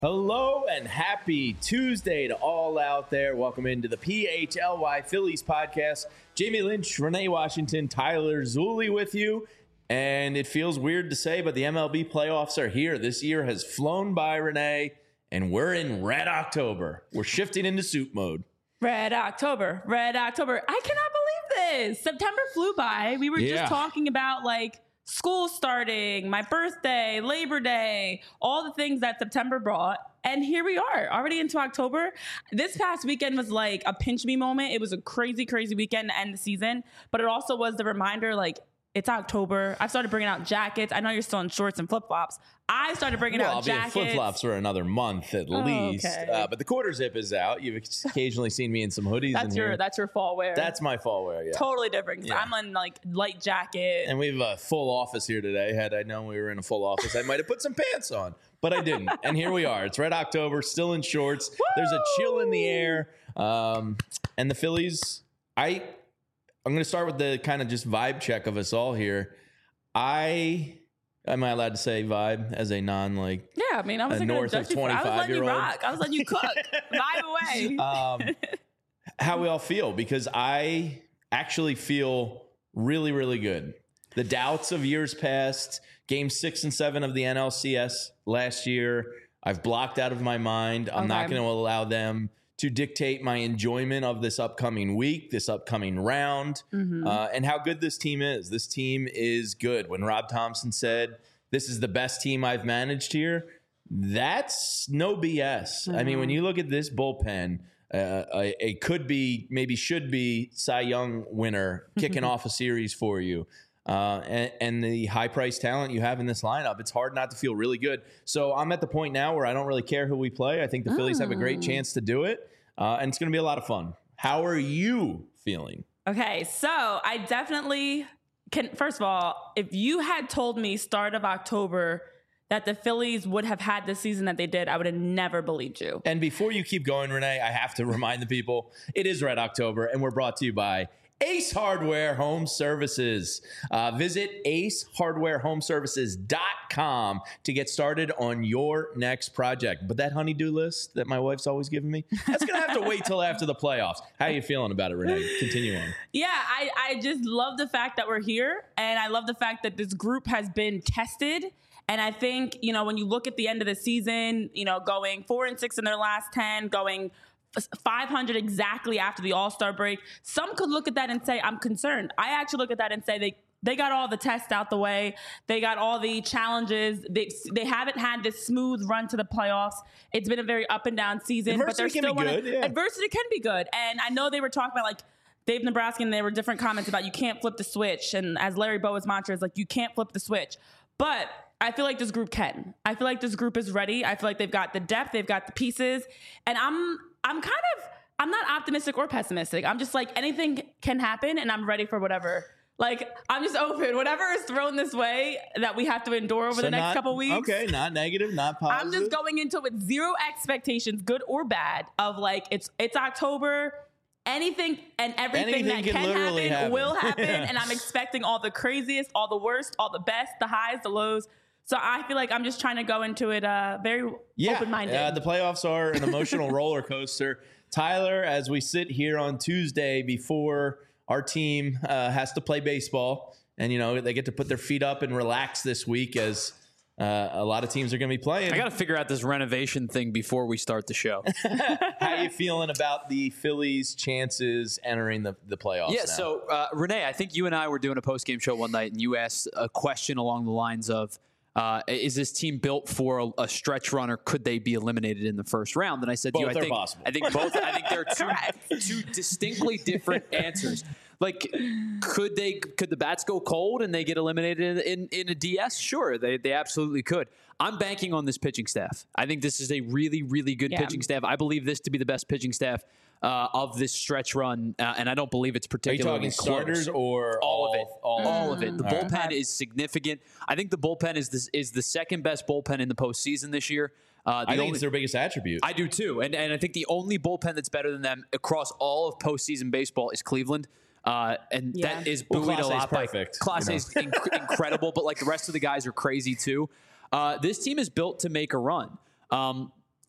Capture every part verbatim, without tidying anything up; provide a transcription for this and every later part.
Hello and happy Tuesday to all out there. Welcome into the P H L Y Phillies podcast. Jamie Lynch, Renee Washington, Tyler Zulli with you. And it feels weird to say, but the M L B playoffs are here. This year has flown by, Renee, and we're in Red October. We're shifting into soup mode. Red October, Red October. I cannot believe this. September flew by. We were Yeah. just talking about like school starting, my birthday, Labor Day, all the things that September brought. And here we are, already into October. This past weekend was like a pinch me moment. It was a crazy, crazy weekend to end the season. But it also was the reminder, like, it's October. I've started bringing out jackets. I know you're still in shorts and flip-flops. I started bringing well, out I'll jackets. be in flip-flops for another month at Oh, least. okay. Uh, but the quarter zip is out. You've occasionally seen me in some hoodies. That's in your here. that's your fall wear. That's my fall wear, yeah. totally different. Yeah. I'm in like light jacket. And we have a full office here today. Had I known we were in a full office, I might have put some pants on, but I didn't. And here we are. It's Red October, still in shorts. Woo! There's a chill in the air. Um, and the Phillies, I, I'm going to start with the kind of just vibe check of us all here. I, am I allowed to say vibe as a non like Yeah, I mean, I was a like, north of I was letting you twenty-five-year-old? rock. I was letting you cook. Vibe away. um, how we all feel, because I actually feel really, really good. The doubts of years past, game six and seven of the N L C S last year, I've blocked out of my mind. I'm not Okay. going to allow them to dictate my enjoyment of this upcoming week, this upcoming round, Mhm. uh, and how good this team is. This team is good. When Rob Thompson said, this is the best team I've managed here, that's no B S. I mean, when you look at this bullpen, uh, a, a could be, maybe should be Cy Young winner kicking off a series for you. Uh, and, and the high price talent you have in this lineup, it's hard not to feel really good. So I'm at the point now where I don't really care who we play. I think the Phillies have a great chance to do it. Uh, and it's going to be a lot of fun. How are you feeling? Okay, so I definitely can. First of all, if you had told me start of October that the Phillies would have had the season that they did, I would have never believed you. And before you keep going, Renee, I have to remind the people, it is Red October, and we're brought to you by Ace Hardware Home Services. Uh, visit ace hardware home services dot com to get started on your next project. But that honey-do list that my wife's always giving me, that's going to have to wait till after the playoffs. How are you feeling about it, Renee? Continue on. Yeah, I, I just love the fact that we're here, and I love the fact that this group has been tested. And I think, you know, when you look at the end of the season, you know, going four and six in their last ten, going five hundred exactly after the All-Star break, some could look at that and say, I'm concerned. I actually look at that and say they they got all the tests out the way. They got all the challenges. They they haven't had this smooth run to the playoffs. It's been a very up and down season. Adversity but they're can still be wanna, good, yeah. Adversity can be good. And I know they were talking about like Dave Nebraska, and there were different comments about you can't flip the switch. And as Larry Bowa's mantra is like, you can't flip the switch. But I feel like this group can. I feel like this group is ready. I feel like they've got the depth. They've got the pieces. And I'm I'm kind of, I'm not optimistic or pessimistic. I'm just like, anything can happen, and I'm ready for whatever. Like, I'm just open. Whatever is thrown this way that we have to endure over So the next not- couple weeks. Okay, not negative, not positive. I'm just going into it with zero expectations, good or bad, of like, it's it's October. Anything and everything Anything that can can literally happen, happen. will happen. Yeah. And I'm expecting all the craziest, all the worst, all the best, the highs, the lows. So I feel like I'm just trying to go into it uh, very Yeah, open-minded. uh, the playoffs are an emotional roller coaster. Tyler, as we sit here on Tuesday before our team uh, has to play baseball, and you know they get to put their feet up and relax this week as uh, a lot of teams are going to be playing. I got to figure out this renovation thing before we start the show. How are you feeling about the Phillies' chances entering the, the playoffs? Yeah, now? so uh, Renee, I think you and I were doing a post-game show one night, and you asked a question along the lines of, uh, is this team built for a, a stretch run, or could they be eliminated in the first round? And I said Both to you, I are think, possible. I think both. I think there are two, two distinctly different answers. Like, could they? Could the bats go cold and they get eliminated in, in, in a D S? Sure, they they absolutely could. I'm banking on this pitching staff. I think this is a really, really good Yeah. pitching staff. I believe this to be the best pitching staff uh, of this stretch run, uh, and I don't believe it's are you particularly talking starters close. or all of it? All, All of it. The All right. bullpen is significant. I think the bullpen is this is the second best bullpen in the postseason this year. Uh, the I think only- it's their biggest attribute. I do too, and and I think the only bullpen that's better than them across all of postseason baseball is Cleveland. Uh, and Yeah. that is Well, buoyed Clase a A is lot by perfect, Clase you know. A is inc- incredible, but like the rest of the guys are crazy too. Uh, this team is built to make a run. Um,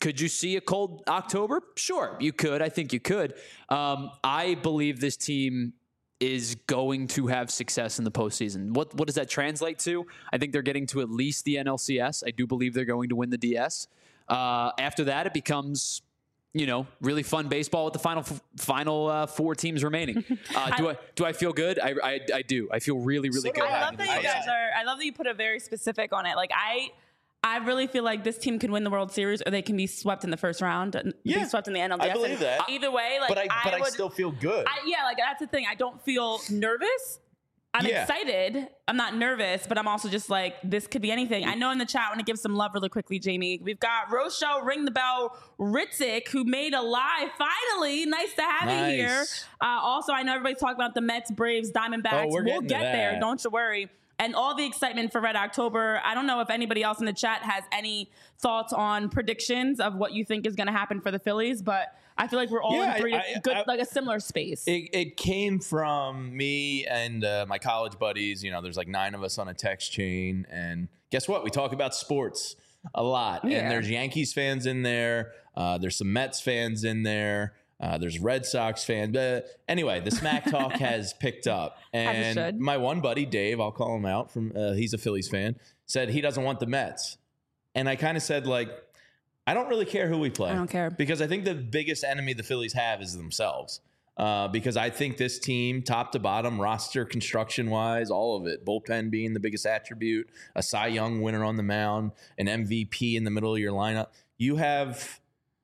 Could you see a cold October? Sure, you could. I think you could. Um, I believe this team is going to have success in the postseason. What what does that translate to? I think they're getting to at least the N L C S. I do believe they're going to win the D S. Uh, after that, it becomes, you know, really fun baseball with the final final uh, four teams remaining. Uh, do I do I feel good? I I, I do. I feel really really So good. do I love that you I- guys are. I love that you put it very specific on it. Like I, I really feel like this team can win the World Series, or they can be swept in the first round, and Yeah, be swept in the N L D S. I believe And that. Either way, like but I, but I, would, still feel good. I, yeah, like that's the thing. I don't feel nervous. I'm Yeah. excited. I'm not nervous, but I'm also just like, this could be anything. I know in the chat, I want to give some love really quickly, Jamie. We've got Rochelle Ring the Bell Ritzik, who made a live. Finally, nice to have Nice. you here. Uh, also, I know everybody's talking about the Mets, Braves, Diamondbacks. Oh, we're we'll getting to get there. that. Don't you worry. And all the excitement for Red October. I don't know if anybody else in the chat has any thoughts on predictions of what you think is going to happen for the Phillies, but I feel like we're all Yeah, in three I- I- good, I- like a similar space. It, it came from me and uh, my college buddies. You know, there's like nine of us on a text chain. And guess what? We talk about sports a lot. Yeah. And there's Yankees fans in there. Uh, there's some Mets fans in there. Uh, there's Red Sox fans. But anyway, the Smack Talk has picked up. As it And should. my one buddy, Dave, I'll call him out, from uh, he's a Phillies fan, said he doesn't want the Mets. And I kind of said, like, I don't really care who we play. I don't care. Because I think the biggest enemy the Phillies have is themselves. Uh, because I think this team, top to bottom, roster construction wise, all of it, bullpen being the biggest attribute, a Cy Young winner on the mound, an M V P in the middle of your lineup, you have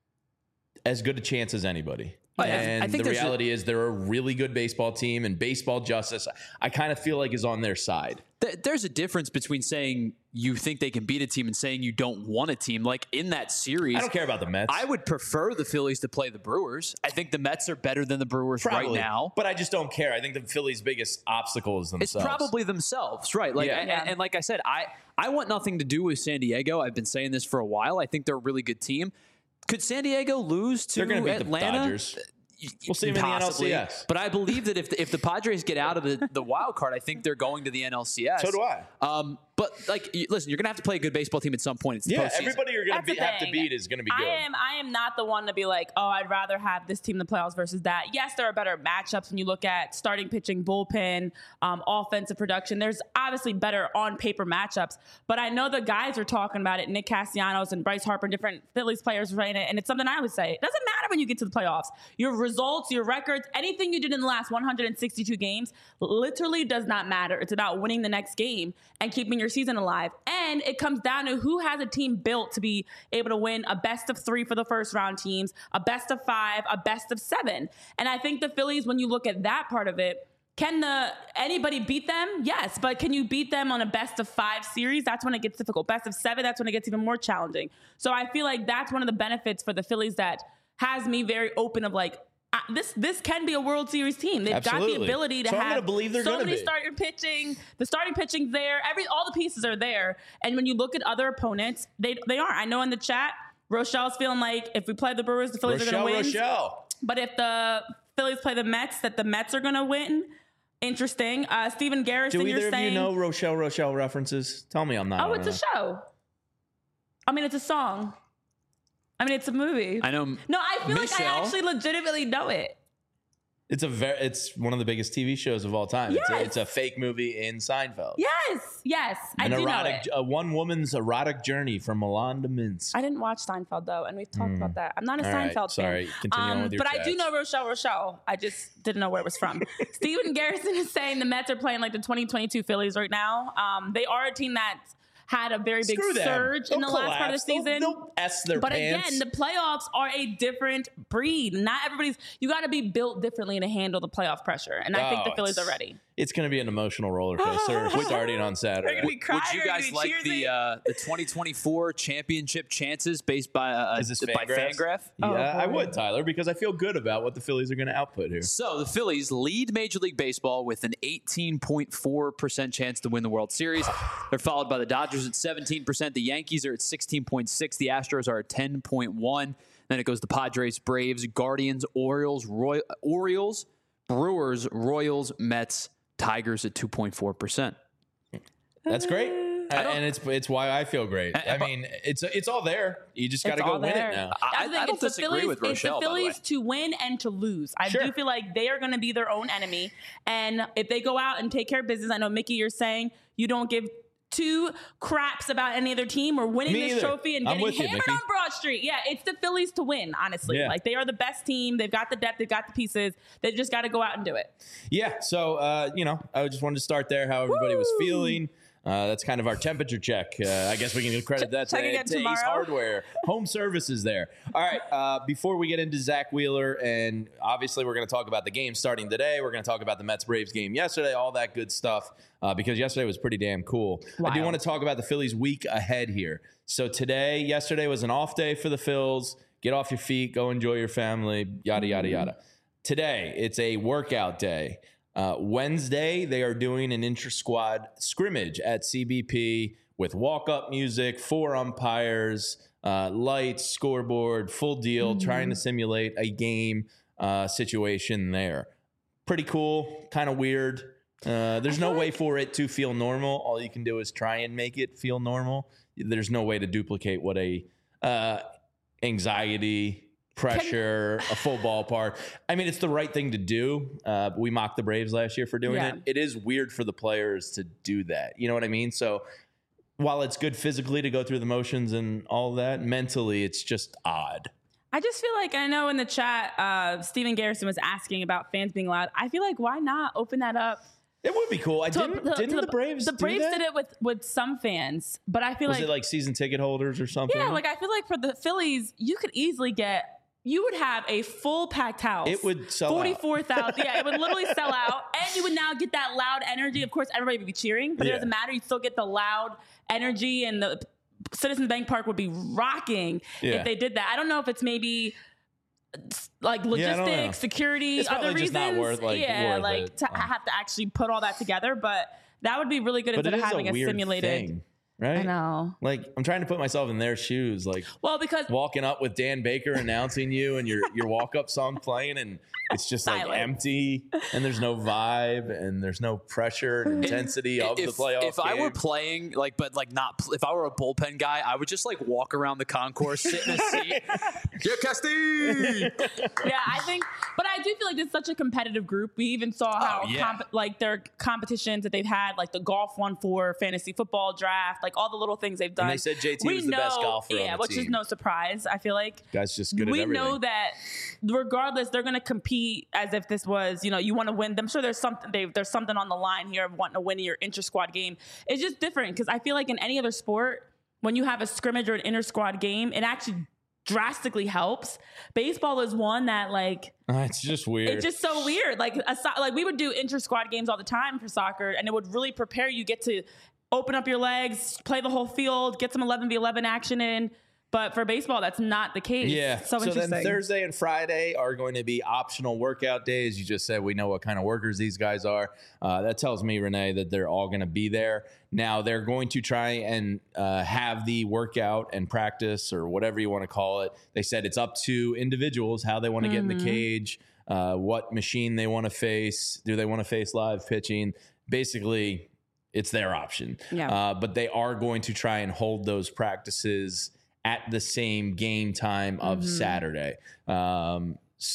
as good a chance as anybody. Oh, yeah. And I think the there's a- reality is they're a really good baseball team, and baseball justice, I kind of feel like, is on their side. Th- There's a difference between saying you think they can beat a team and saying you don't want a team. Like in that series, I don't care about the Mets. I would prefer the Phillies to play the Brewers. I think the Mets are better than the Brewers right Probably. now. But I just don't care. I think the Phillies' biggest obstacle is It's themselves. probably themselves, right? Like, Yeah. and, Yeah. and like I said, I I want nothing to do with San Diego. I've been saying this for a while. I think they're a really good team. Could San Diego lose to They're going to beat Atlanta? the Dodgers. We'll see them in the N L C S. But I believe that if the, if the Padres get out of the, the wild card, I think they're going to the N L C S. So do I. Um, but like, you- listen, you're gonna have to play a good baseball team at some point. It's the Yeah, postseason. everybody you're going That's to the have to thing. beat is going to be good. I am I am not the one to be like, oh, I'd rather have this team in the playoffs versus that. Yes, there are better matchups when you look at starting pitching, bullpen, um, offensive production. There's obviously better on paper matchups, but I know the guys are talking about it. Nick Castellanos and Bryce Harper, different Phillies players, right? And it's something I would say. It doesn't matter when you get to the playoffs. Your results, your records, anything you did in the last one hundred sixty-two games literally does not matter. It's about winning the next game and keeping your season alive. And it comes down to who has a team built to be able to win a best of three for the first round teams, a best of five, a best of seven. And I think the Phillies, when you look at that part of it, can the anybody beat them? Yes, but can you beat them on a best of five series? That's when it gets difficult. Best of seven, that's when it gets even more challenging. So I feel like that's one of the benefits for the Phillies that has me very open of like, uh, this this can be a World Series team. They've got Absolutely. the ability to So I'm have gonna believe they're so gonna many be. starting pitching. The starting pitching's there. Every all the pieces are there. And when you look at other opponents, they they aren't. I know in the chat, Rochelle's feeling like if we play the Brewers, the Phillies are Rochelle, going to win. Rochelle. But if the Phillies play the Mets, that the Mets are going to win. Interesting. Uh, Steven Garrison, Do you're either of saying. you know Rochelle, Rochelle references? Tell me I'm not. Oh, on it's a that. show. I mean, it's a song. I mean, it's a movie. I know. no, I feel like I Michelle. actually legitimately know it. It's a very. It's one of the biggest T V shows of all time. It's, a, Yes. it's a fake movie in Seinfeld. Yes, yes, I An do erotic, know it. a one woman's erotic journey from Milan to Minsk. I didn't watch Seinfeld though, and we've talked about that. I'm not a Hmm. All right, Seinfeld sorry. fan. Continue on with your but I do chats. know Rochelle Rochelle. I just didn't know where it was from. Steven Garrison is saying the Mets are playing like the twenty twenty-two Phillies right now. Um, they are a team that's had a very big Screw them. surge in the They'll last part of the collapse. They'll- season. They'll S their But pants. again, the playoffs are a different breed. Not everybody's. You got to be built differently to handle the playoff pressure, and I think the Oh, Phillies it's- are ready. It's going to be an emotional roller coaster starting on Saturday. gonna be crying, Would you or guys you like cheersing? the uh, the twenty twenty-four championship chances based by uh, Is this by Fangraphs? Fangraph? Oh, Yeah, I boy. would, Tyler, because I feel good about what the Phillies are going to output here. So the Phillies lead Major League Baseball with an eighteen point four percent chance to win the World Series. They're followed by the Dodgers at seventeen percent. The Yankees are at sixteen point six. The Astros are at ten point one. Then it goes to Padres, Braves, Guardians, Orioles, Roy- Orioles, Brewers, Royals, Mets, Tigers at two point four percent. That's great. and it's it's why I feel great. I, I mean, it's it's all there. You just got to go win there. it now. I, I, I don't it's the disagree Phillies, with Rochelle, it's the by the way. Phillies to win and to lose. I Sure. do feel like they are going to be their own enemy. And if they go out and take care of business, I know, Mickey, you're saying you don't give two craps about any other team or winning Me this either. trophy and I'm getting with you, hammered Mickey. on Broad Street. Yeah, it's the Phillies to win, honestly. Yeah. Like, they are the best team. They've got the depth. They've got the pieces. They've just got to go out and do it. Yeah. So, uh, you know, I just wanted to start there, how everybody was Woo! feeling. Uh, that's kind of our temperature check. Uh, I guess we can credit that to, Check again to Ace tomorrow. Hardware. Home services there. All right. Uh, before we get into Zach Wheeler, and obviously we're going to talk about the game starting today. We're going to talk about the Mets-Braves game yesterday, all that good stuff, uh, because yesterday was pretty damn cool. I do Wild. want to talk about the Phillies week ahead here. So today, yesterday was an off day for the Phils. Get off your feet, go enjoy your family, yada, yada, yada. Today, it's a workout day. Uh, Wednesday, they are doing an intra-squad scrimmage at C B P with walk-up music, four umpires, uh, lights, scoreboard, full deal, Mm-hmm. trying to simulate a game uh, situation there. Pretty cool, kind of weird. Uh, there's no way for it to feel normal. All you can do is try and make it feel normal. There's no way to duplicate what a uh, anxiety, pressure, a full ballpark. I mean, it's the right thing to do. Uh, we mocked the Braves last year for doing Yeah. it. It is weird for the players to do that. You know what I mean? So while it's good physically to go through the motions and all that, mentally, it's just odd. I just feel like, I know in the chat, uh, Steven Garrison was asking about fans being loud. I feel like, why not open that up? It would be cool. I to- didn't. to- didn't to the Braves? The do Braves that? did it with, with some fans, but I feel Was like, it like season ticket holders or something? yeah, like I feel like for the Phillies, you could easily get, you would have a full packed house. It would sell out. forty-four thousand. Yeah, it would literally sell out. And you would now get that loud energy. Of course, everybody would be cheering, but Yeah. it doesn't matter. You still get the loud energy, and the Citizens Bank Park would be rocking Yeah. if they did that. I don't know if it's maybe like Yeah, I don't know. logistics, security, It's other probably reasons. just not worth, like, yeah, worth like it. to have to actually put all that together. But that would be really good But it instead is of having a a, weird simulated. thing, right? I know. Like, I'm trying to put myself in their shoes. Like, Well, because walking up with Dan Baker announcing you and your your walk up song playing, and it's just like Silence. empty, and there's no vibe, and there's no pressure and intensity of if, the playoff. if I were game. playing, like, but like not, pl- if I were a bullpen guy, I would just like walk around the concourse, sit in a seat. Yeah, Castile. yeah, I think, but I do feel like it's such a competitive group. We even saw how, yeah. comp- like, their competitions that they've had, like the golf one for fantasy football draft, like all the little things they've done. And they said J T We was the best know- golfer on Yeah, the which is team. no surprise. I feel like Guy's just good at we everything. know that regardless, they're going to compete as if this was, you know, you want to win. I'm sure there's something they, there's something on the line here of wanting to win your inter squad game. It's just different because I feel like in any other sport, when you have a scrimmage or an inter squad game, it actually drastically helps. Baseball is one that, like, Uh, it's just weird. it's just so weird. Like, a, so- like we would do inter squad games all the time for soccer, and it would really prepare you. Get to open up your legs, play the whole field, get some eleven v eleven action in. But for baseball, that's not the case. Yeah. So, So interesting. then Thursday and Friday are going to be optional workout days. You just said we know what kind of workers these guys are. Uh, that tells me, Renee, that they're all going to be there. Now they're going to try and uh, have the workout and practice or whatever you want to call it. They said it's up to individuals how they want to get in the cage, uh, what machine they want to face. Do they want to face live pitching? Basically, it's their option. Yeah. Uh, but they are going to try and hold those practices at the same game time of Saturday. Um,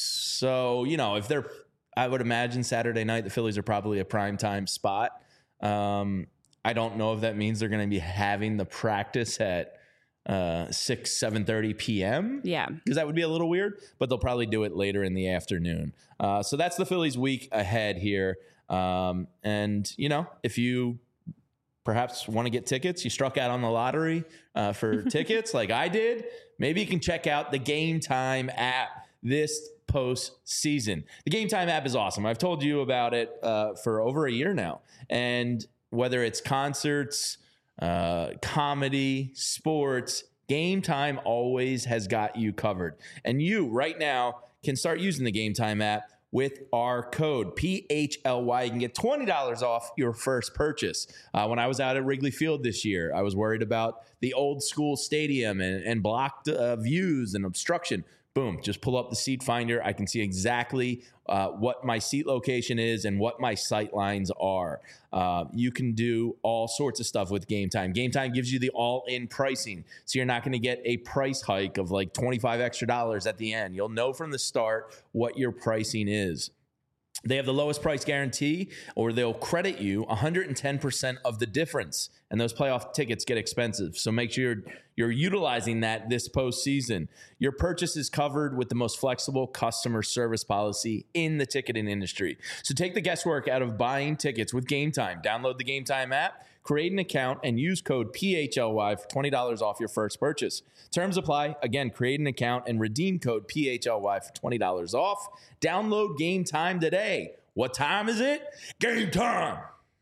so, you know, if they're, I would imagine Saturday night, the Phillies are probably a prime time spot. Um, I don't know if that means they're going to be having the practice at uh, six, seven thirty p.m. yeah. because that would be a little weird, but they'll probably do it later in the afternoon. Uh, so that's the Phillies week ahead here. Um, and, you know, if you perhaps want to get tickets, you struck out on the lottery uh, for tickets like I did, maybe you can check out the Game Time app this postseason. The Game Time app is awesome. I've told you about it uh, for over a year now. And whether it's concerts, uh, comedy, sports, Game Time always has got you covered. And you right now can start using the Game Time app with our code P H L Y. You can get twenty dollars off your first purchase. Uh, when I was out at Wrigley Field this year, I was worried about the old school stadium and, and blocked uh, views and obstruction. boom, just pull up the seat finder. I can see exactly uh, what my seat location is and what my sight lines are. Uh, you can do all sorts of stuff with Game Time. Game Time gives you the all-in pricing, so you're not going to get a price hike of like twenty-five extra dollars at the end. You'll know from the start what your pricing is. They have the lowest price guarantee, or they'll credit you one hundred ten percent of the difference. And those playoff tickets get expensive. So make sure you're, you're utilizing that this postseason. Your purchase is covered with the most flexible customer service policy in the ticketing industry. So take the guesswork out of buying tickets with Game Time. Download the Game Time app, create an account, and use code P H L Y for twenty dollars off your first purchase. Terms apply. Again, create an account and redeem code P H L Y for twenty dollars off. Download Game Time today. What time is it? Game time.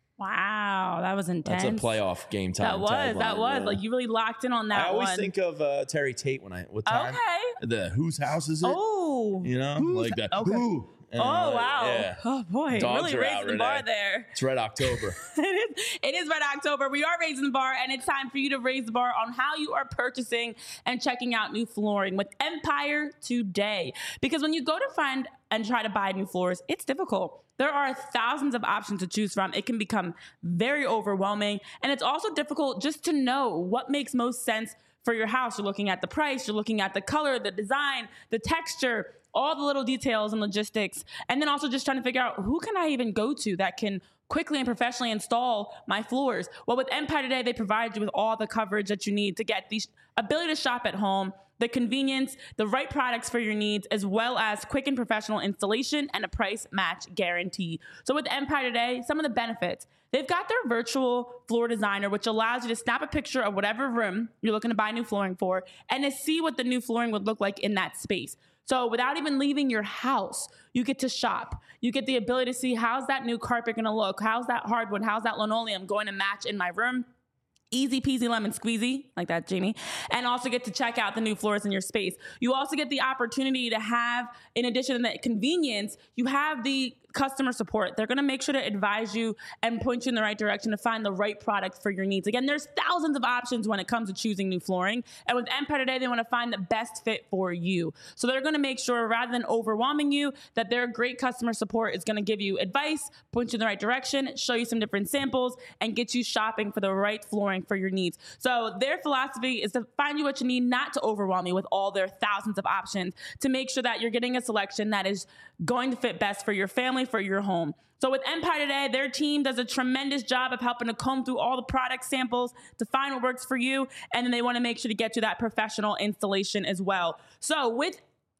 Wow, that was intense. That's a playoff Game Time. That was, tagline, that was. yeah. Like, you really locked in on that I always one. think of uh, Terry Tate when I, what time? Okay. The whose house is it? Oh. You know, Whose- like that. okay. Who? And Oh, like, wow. Yeah. Oh, boy. Dogs really are out, raising the bar Renee. there. It's Red October. it, is, it is Red October. We are raising the bar, and it's time for you to raise the bar on how you are purchasing and checking out new flooring with Empire today. Because when you go to find and try to buy new floors, it's difficult. There are thousands of options to choose from. It can become very overwhelming, and it's also difficult just to know what makes most sense for your house. You're looking at the price, you're looking at the color, the design, the texture, all the little details and logistics, and then also just trying to figure out who can I even go to that can quickly and professionally install my floors. Well, with Empire today, they provide you with all the coverage that you need to get the ability to shop at home, the convenience, the right products for your needs, as well as quick and professional installation and a price match guarantee. So with Empire today, some of the benefits. They've got their virtual floor designer, which allows you to snap a picture of whatever room you're looking to buy new flooring for and to see what the new flooring would look like in that space. So without even leaving your house, you get to shop. You get the ability to see how's that new carpet going to look? How's that hardwood? How's that linoleum going to match in my room? Easy peasy lemon squeezy, like that, Jamie. And also get to check out the new floors in your space. You also get the opportunity to have, in addition to the convenience, you have the customer support. They're going to make sure to advise you and point you in the right direction to find the right product for your needs. Again, there's thousands of options when it comes to choosing new flooring. And with Empire today, they want to find the best fit for you. So they're going to make sure, rather than overwhelming you, that their great customer support is going to give you advice, point you in the right direction, show you some different samples, and get you shopping for the right flooring for your needs. So their philosophy is to find you what you need, not to overwhelm you with all their thousands of options, to make sure that you're getting a selection that is going to fit best for your family, for your home. So with Empire today, their team does a tremendous job of helping to comb through all the product samples to find what works for you. And then they want to make sure to get you that professional installation as well. So with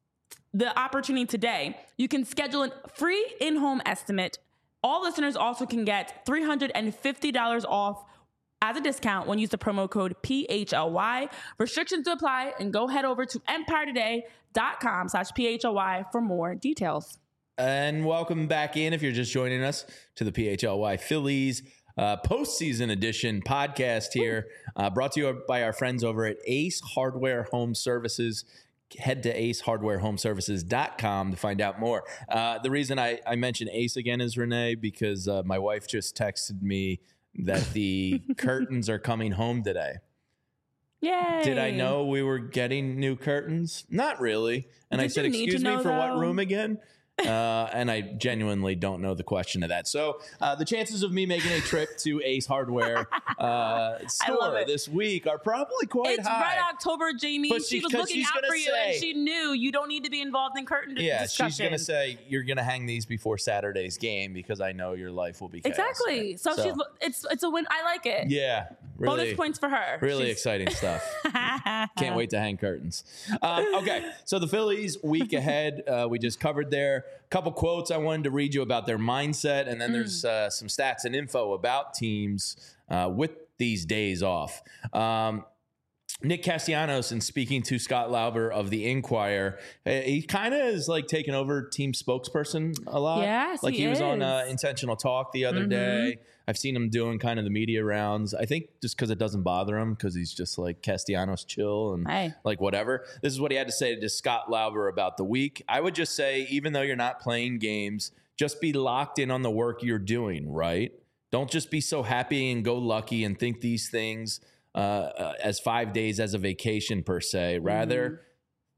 the opportunity today, you can schedule a free in-home estimate. All listeners also can get three hundred fifty dollars off as a discount when you use the promo code P H L Y. Restrictions to apply, and go head over to empire today dot com slash P H L Y for more details. And welcome back in, if you're just joining us, to the P H L Y Phillies uh, postseason edition podcast here, uh, brought to you by our friends over at Ace Hardware Home Services. Head to ace hardware home services dot com to find out more. Uh, the reason I, I mention Ace again is, Renee, because uh, my wife just texted me that the curtains are coming home today. Yay. Did I know we were getting new curtains? Not really. And Did I said, you need to excuse me, know, for what though? room again? Uh, and I genuinely don't know the question of that. So uh, the chances of me making a trip to Ace Hardware uh, store it. this week are probably quite It's high. Red October, Jamie. But she she- was 'cause looking she's out gonna for you, and say- she knew you don't need to be involved in curtain Yeah, discussion. she's going to say you're going to hang these before Saturday's game because I know your life will be chaos. Exactly. So, So- she's it's it's a win. I like it. Yeah, really, Bonus points for her. really She's- exciting stuff. Can't wait to hang curtains. Um, okay, so the Phillies week ahead, uh, we just covered there. Couple quotes I wanted to read you about their mindset, and then there's uh, some stats and info about teams uh, with these days off. Um, Nick Castellanos, in speaking to Scott Lauber of the Inquirer, he kind of is like taking over team spokesperson a lot. Yes, like he he, was on uh, is. Intentional Talk the other Mhm. day. I've seen him doing kind of the media rounds. I think just because it doesn't bother him, because he's just like Castellanos chill and Hey. like whatever. This is what he had to say to Scott Lauber about the week. I would just say, even though you're not playing games, just be locked in on the work you're doing, right? Don't just be so happy and go lucky and think these things uh, uh, as five days as a vacation per se. Rather,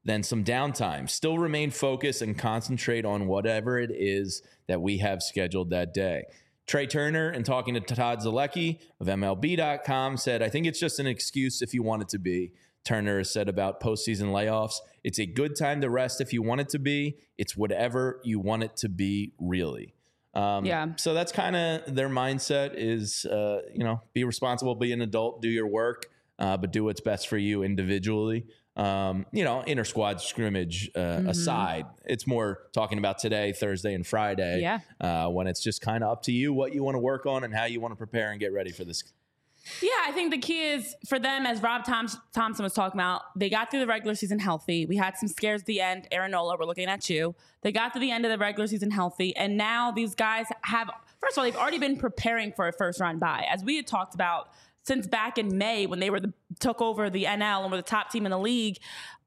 then some downtime. Still remain focused and concentrate on whatever it is that we have scheduled that day. Trey Turner, in talking to Todd Zalecki of M L B dot com, said, I think it's just an excuse if you want it to be. Turner has said about postseason layoffs, it's a good time to rest if you want it to be. It's whatever you want it to be, really. Um, yeah. So that's kind of their mindset is, uh, you know, be responsible, be an adult, do your work, uh, but do what's best for you individually. Um, you know, inter squad scrimmage uh, mm-hmm. aside, it's more talking about today, Thursday and Friday, yeah. uh, when it's just kind of up to you what you want to work on and how you want to prepare and get ready for this. Yeah, I think the key is for them, as Rob Thom- Thompson was talking about, they got through the regular season healthy. We had some scares at the end. Aaron Nola, we're looking at you. They got to the end of the regular season healthy, and now these guys have, first of all, they've already been preparing for a first round bye. As we had talked about since back in May when they were the, took over the N L and were the top team in the league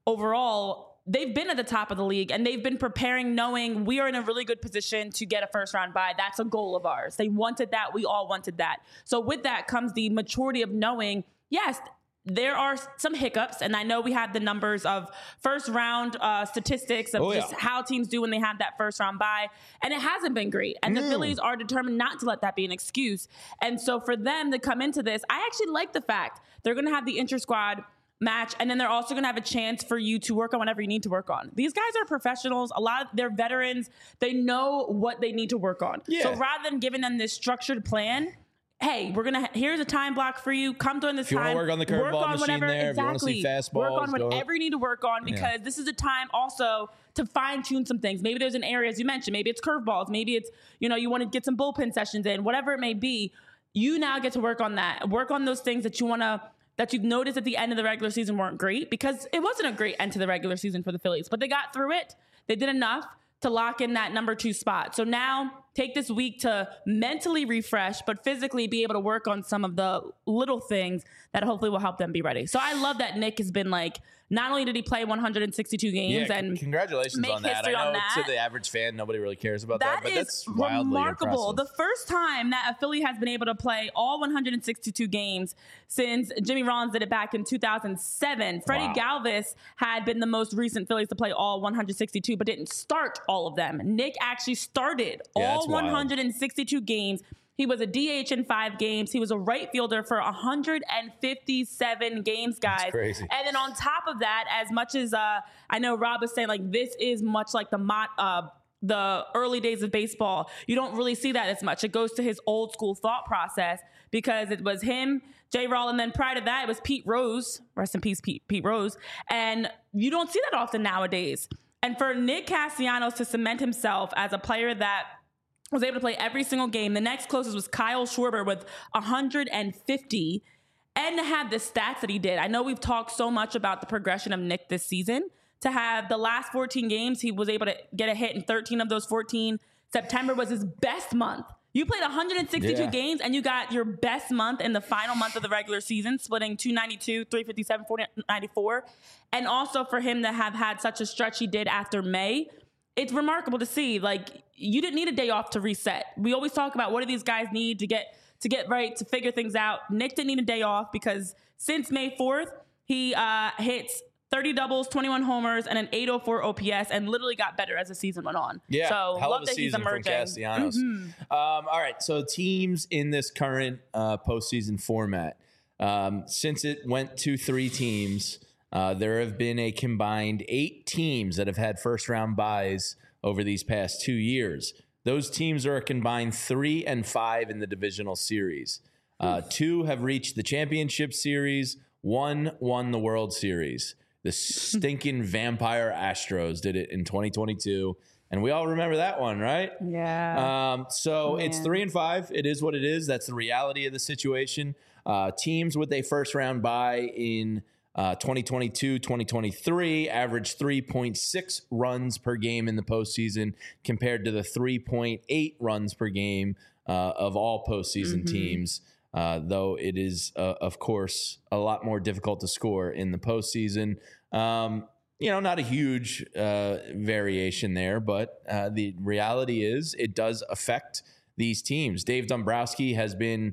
overall, they've been at the top of the league and they've been preparing knowing we are in a really good position to get a first round bye. That's a goal of ours. They wanted that. We all wanted that. So with that comes the maturity of knowing, yes, there are some hiccups, and I know we have the numbers of first round uh, statistics of oh, yeah. just how teams do when they have that first round bye, and it hasn't been great. And mm. the Phillies are determined not to let that be an excuse. And so for them to come into this, I actually like the fact they're going to have the inter-squad match, and then they're also going to have a chance for you to work on whatever you need to work on. These guys are professionals. A lot of they're veterans. They know what they need to work on. Yeah. So rather than giving them this structured plan, hey, we're gonna. Here's a time block for you. Come during this if you time. Want to work on the curveball machine whatever, there. Exactly. If you want to see fastballs, work on whatever you need to work on because yeah. this is a time also to fine tune some things. Maybe there's an area, as you mentioned. Maybe it's curveballs. Maybe it's you know you want to get some bullpen sessions in. Whatever it may be, you now get to work on that. Work on those things that you want to. That you've noticed at the end of the regular season weren't great because it wasn't a great end to the regular season for the Phillies, but they got through it. They did enough to lock in that number two spot. So now take this week to mentally refresh, but physically be able to work on some of the little things that hopefully will help them be ready. So I love that Nick has been like, not only did he play one hundred sixty-two games yeah, and congratulations make on that. history I know on that. To the average fan, nobody really cares about that, That but is that's wildly remarkable. impressive. The first time that a Philly has been able to play all one hundred sixty-two games since Jimmy Rollins did it back in two thousand seven. Freddie Wow. Galvis had been the most recent Phillies to play all one hundred sixty-two, but didn't start all of them. Nick actually started Yeah, all that's wild. one hundred sixty-two games. He was a D H in five games. He was a right fielder for one hundred fifty-seven games, guys. That's crazy. And then on top of that, as much as uh, I know Rob was saying, like, this is much like the mot, uh, the early days of baseball. You don't really see that as much. It goes to his old school thought process because it was him, J. Roll, and then prior to that, it was Pete Rose. Rest in peace, Pete, Pete Rose. And you don't see that often nowadays. And for Nick Castellanos to cement himself as a player that was able to play every single game. The next closest was Kyle Schwarber with one hundred fifty, and to have the stats that he did. I know we've talked so much about the progression of Nick this season. To have the last fourteen games, he was able to get a hit in thirteen of those fourteen. September was his best month. You played one hundred sixty-two Yeah. games, and you got your best month in the final month of the regular season, splitting two ninety-two, three fifty-seven, four ninety-four. And also for him to have had such a stretch he did after May, it's remarkable to see. Like, you didn't need a day off to reset. We always talk about what do these guys need to get to get right, to figure things out. Nick didn't need a day off because since May fourth, he uh, hits thirty doubles, twenty-one homers, and an eight oh four O P S, and literally got better as the season went on. Yeah, so hell love of a that he's season from emerging. Castellanos. Mhm. Um, all right, so teams in this current uh, postseason format, um, since it went to three teams, uh, there have been a combined eight teams that have had first-round byes over these past two years. Those teams are a combined three and five in the divisional series. Uh, two have reached the championship series. One won the World Series. The stinking vampire Astros did it in twenty twenty-two. And we all remember that one, right? Yeah. Um, so Man. it's three and five. It is what it is. That's the reality of the situation. Uh, teams with a first round bye in uh, twenty twenty-two, twenty twenty-three averaged three point six runs per game in the postseason compared to the three point eight runs per game uh, of all postseason Mhm. teams. Uh, though it is, uh, of course, a lot more difficult to score in the postseason. Um, you know, not a huge uh, variation there, but uh, the reality is it does affect these teams. Dave Dombrowski has been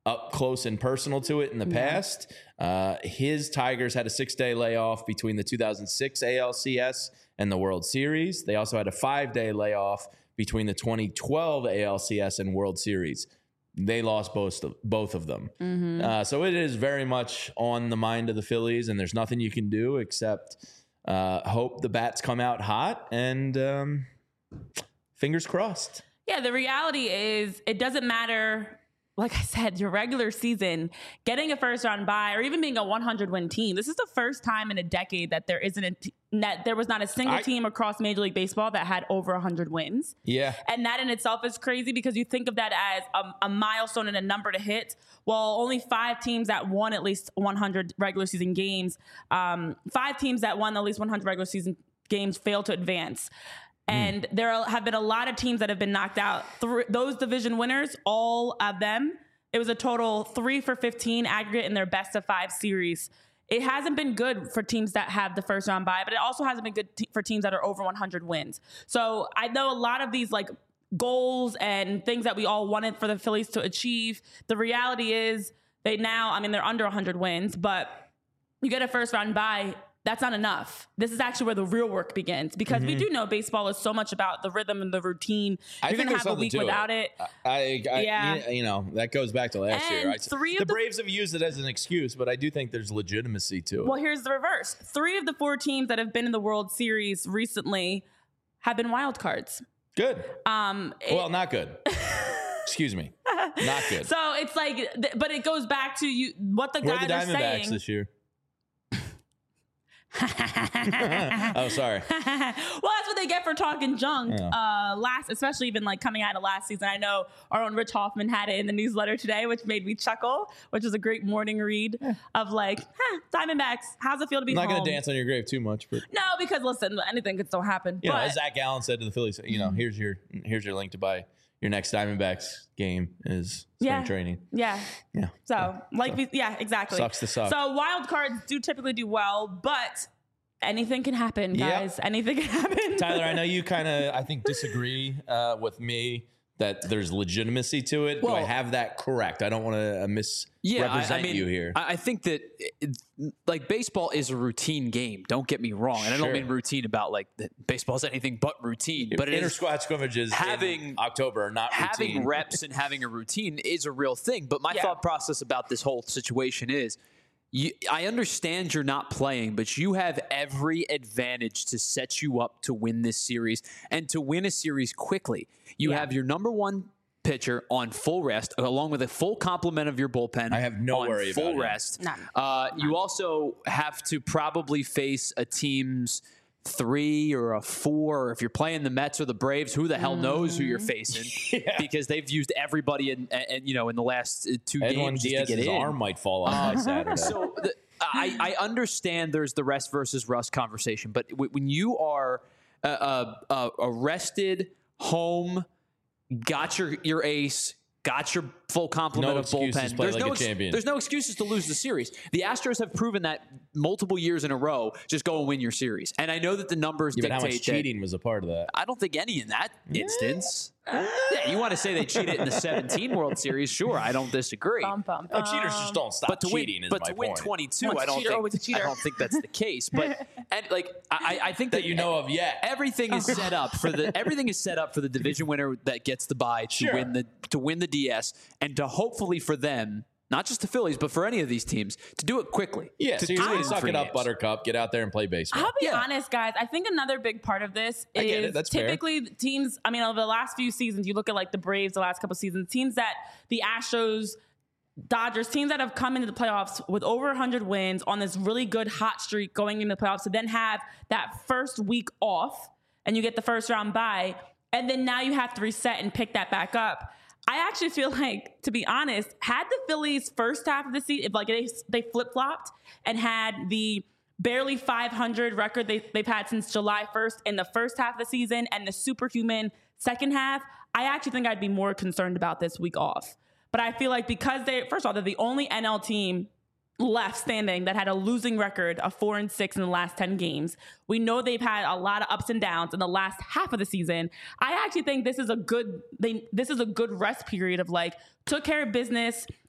up close and personal to it in the yeah. past. Uh, his Tigers had a six-day layoff between the two thousand six A L C S and the World Series. They also had a five-day layoff between the twenty twelve A L C S and World Series. They lost both of, both of them. Mm-hmm. Uh, so it is very much on the mind of the Phillies, and there's nothing you can do except uh, hope the bats come out hot and um, fingers crossed. Yeah, the reality is it doesn't matter. Like I said, your regular season, getting a first round bye, or even being a one hundred win team. This is the first time in a decade that there isn't a t- that there was not a single I, team across Major League Baseball that had over one hundred wins. Yeah, and that in itself is crazy because you think of that as a, a milestone and a number to hit. Well, only five teams that won at least one hundred regular season games, um, five teams that won at least one hundred regular season games failed to advance. And mm. there have been a lot of teams that have been knocked out. Th- those division winners, all of them, it was a total three for fifteen aggregate in their best of five series. It hasn't been good for teams that have the first round bye, but it also hasn't been good t- for teams that are over one hundred wins. So I know a lot of these like goals and things that we all wanted for the Phillies to achieve. The reality is they now, I mean, they're under one hundred wins, but you get a first round bye. That's not enough. This is actually where the real work begins because mm-hmm. we do know baseball is so much about the rhythm and the routine. I You're going to have a week without it. it. I, I, yeah. You know, that goes back to last and year. I, three the, of the Braves have used it as an excuse, but I do think there's legitimacy to it. Well, here's the reverse. Three of the four teams that have been in the World Series recently have been wild cards. Good. Um, it, well, not good. Excuse me. Not good. So it's like, but it goes back to you. What the Where guys are the are Diamondbacks saying this year? Oh, sorry. Well, that's what they get for talking junk. Yeah. Uh, last, especially even like coming out of last season. I know our own Rich Hoffman had it in the newsletter today, which made me chuckle, which was a great morning read yeah. of like, huh, Diamondbacks, how's it feel to be I'm not home? going to dance on your grave too much, but no, because listen, anything could still happen. You but, know, as Zach Gallen said to the Phillies, you know, here's your here's your link to buy your next Diamondbacks game is spring yeah. training. Yeah. Yeah. So, so like, so. We, yeah, exactly. Sucks to suck. So wild cards do typically do well, but anything can happen, guys. Yep. Anything can happen. Tyler, I know you kind of, I think, disagree uh, with me that there's legitimacy to it. Well, do I have that correct? I don't want to uh, misrepresent yeah, I, I mean, you here. I think that, it, like, baseball is a routine game. Don't get me wrong. And sure. I don't mean routine about, like, baseball is anything but routine. But inter-squad scrimmages having, in October are not routine. Having reps and having a routine is a real thing. But my yeah. thought process about this whole situation is, You, I understand you're not playing, but you have every advantage to set you up to win this series and to win a series quickly. You yeah. have your number one pitcher on full rest, along with a full complement of your bullpen. I have no on worry full about rest. None. Uh, None. You also have to probably face a team's three or a four, or if you're playing the Mets or the Braves, who the hell knows who you're facing? yeah. Because they've used everybody in, in you know in the last two Edwin games Diaz's just to get in. arm might fall off by Saturday. So the, I, I understand there's the rest versus rust conversation, but w- when you are uh, uh, uh, rested, home, got your your ace, got your full complement no of bullpen. There's, like no ex- champion. there's no excuses to lose the series. The Astros have proven that multiple years in a row. Just go and win your series. And I know that the numbers yeah, dictate but how much cheating that, was a part of that? I don't think any in that yeah. instance. Yeah, you want to say they cheated in the seventeen World Series? Sure, I don't disagree. Bum, bum, no, bum. cheaters just don't stop but to cheating. Win, is but my to win point. twenty-two, Once I don't cheater, think. always a cheater. I don't think that's the case. But and like I, I think that, that you know of yet. Everything is set up for the everything is set up for the division winner that gets the bye to sure. win the to win the D S and to hopefully for them. Not just the Phillies, but for any of these teams, to do it quickly. Yeah, to so you're going to suck it up, games. Buttercup. Get out there and play baseball. I'll be yeah. honest, guys. I think another big part of this I get is it. That's typically fair. teams, I mean, over the last few seasons, you look at like the Braves the last couple seasons, teams that the Astros, Dodgers, teams that have come into the playoffs with over one hundred wins on this really good hot streak going into the playoffs to then have that first week off and you get the first round bye, and then now you have to reset and pick that back up. I actually feel like, to be honest, had the Phillies first half of the season, if like they, they flip-flopped and had the barely five hundred record they, they've had since July first in the first half of the season and the superhuman second half, I actually think I'd be more concerned about this week off. But I feel like because they, first of all, they're the only N L team left standing that had a losing record of four and six in the last ten games. We know they've had a lot of ups and downs in the last half of the season. I actually think this is a good, they, this is a good rest period of like, took care of business,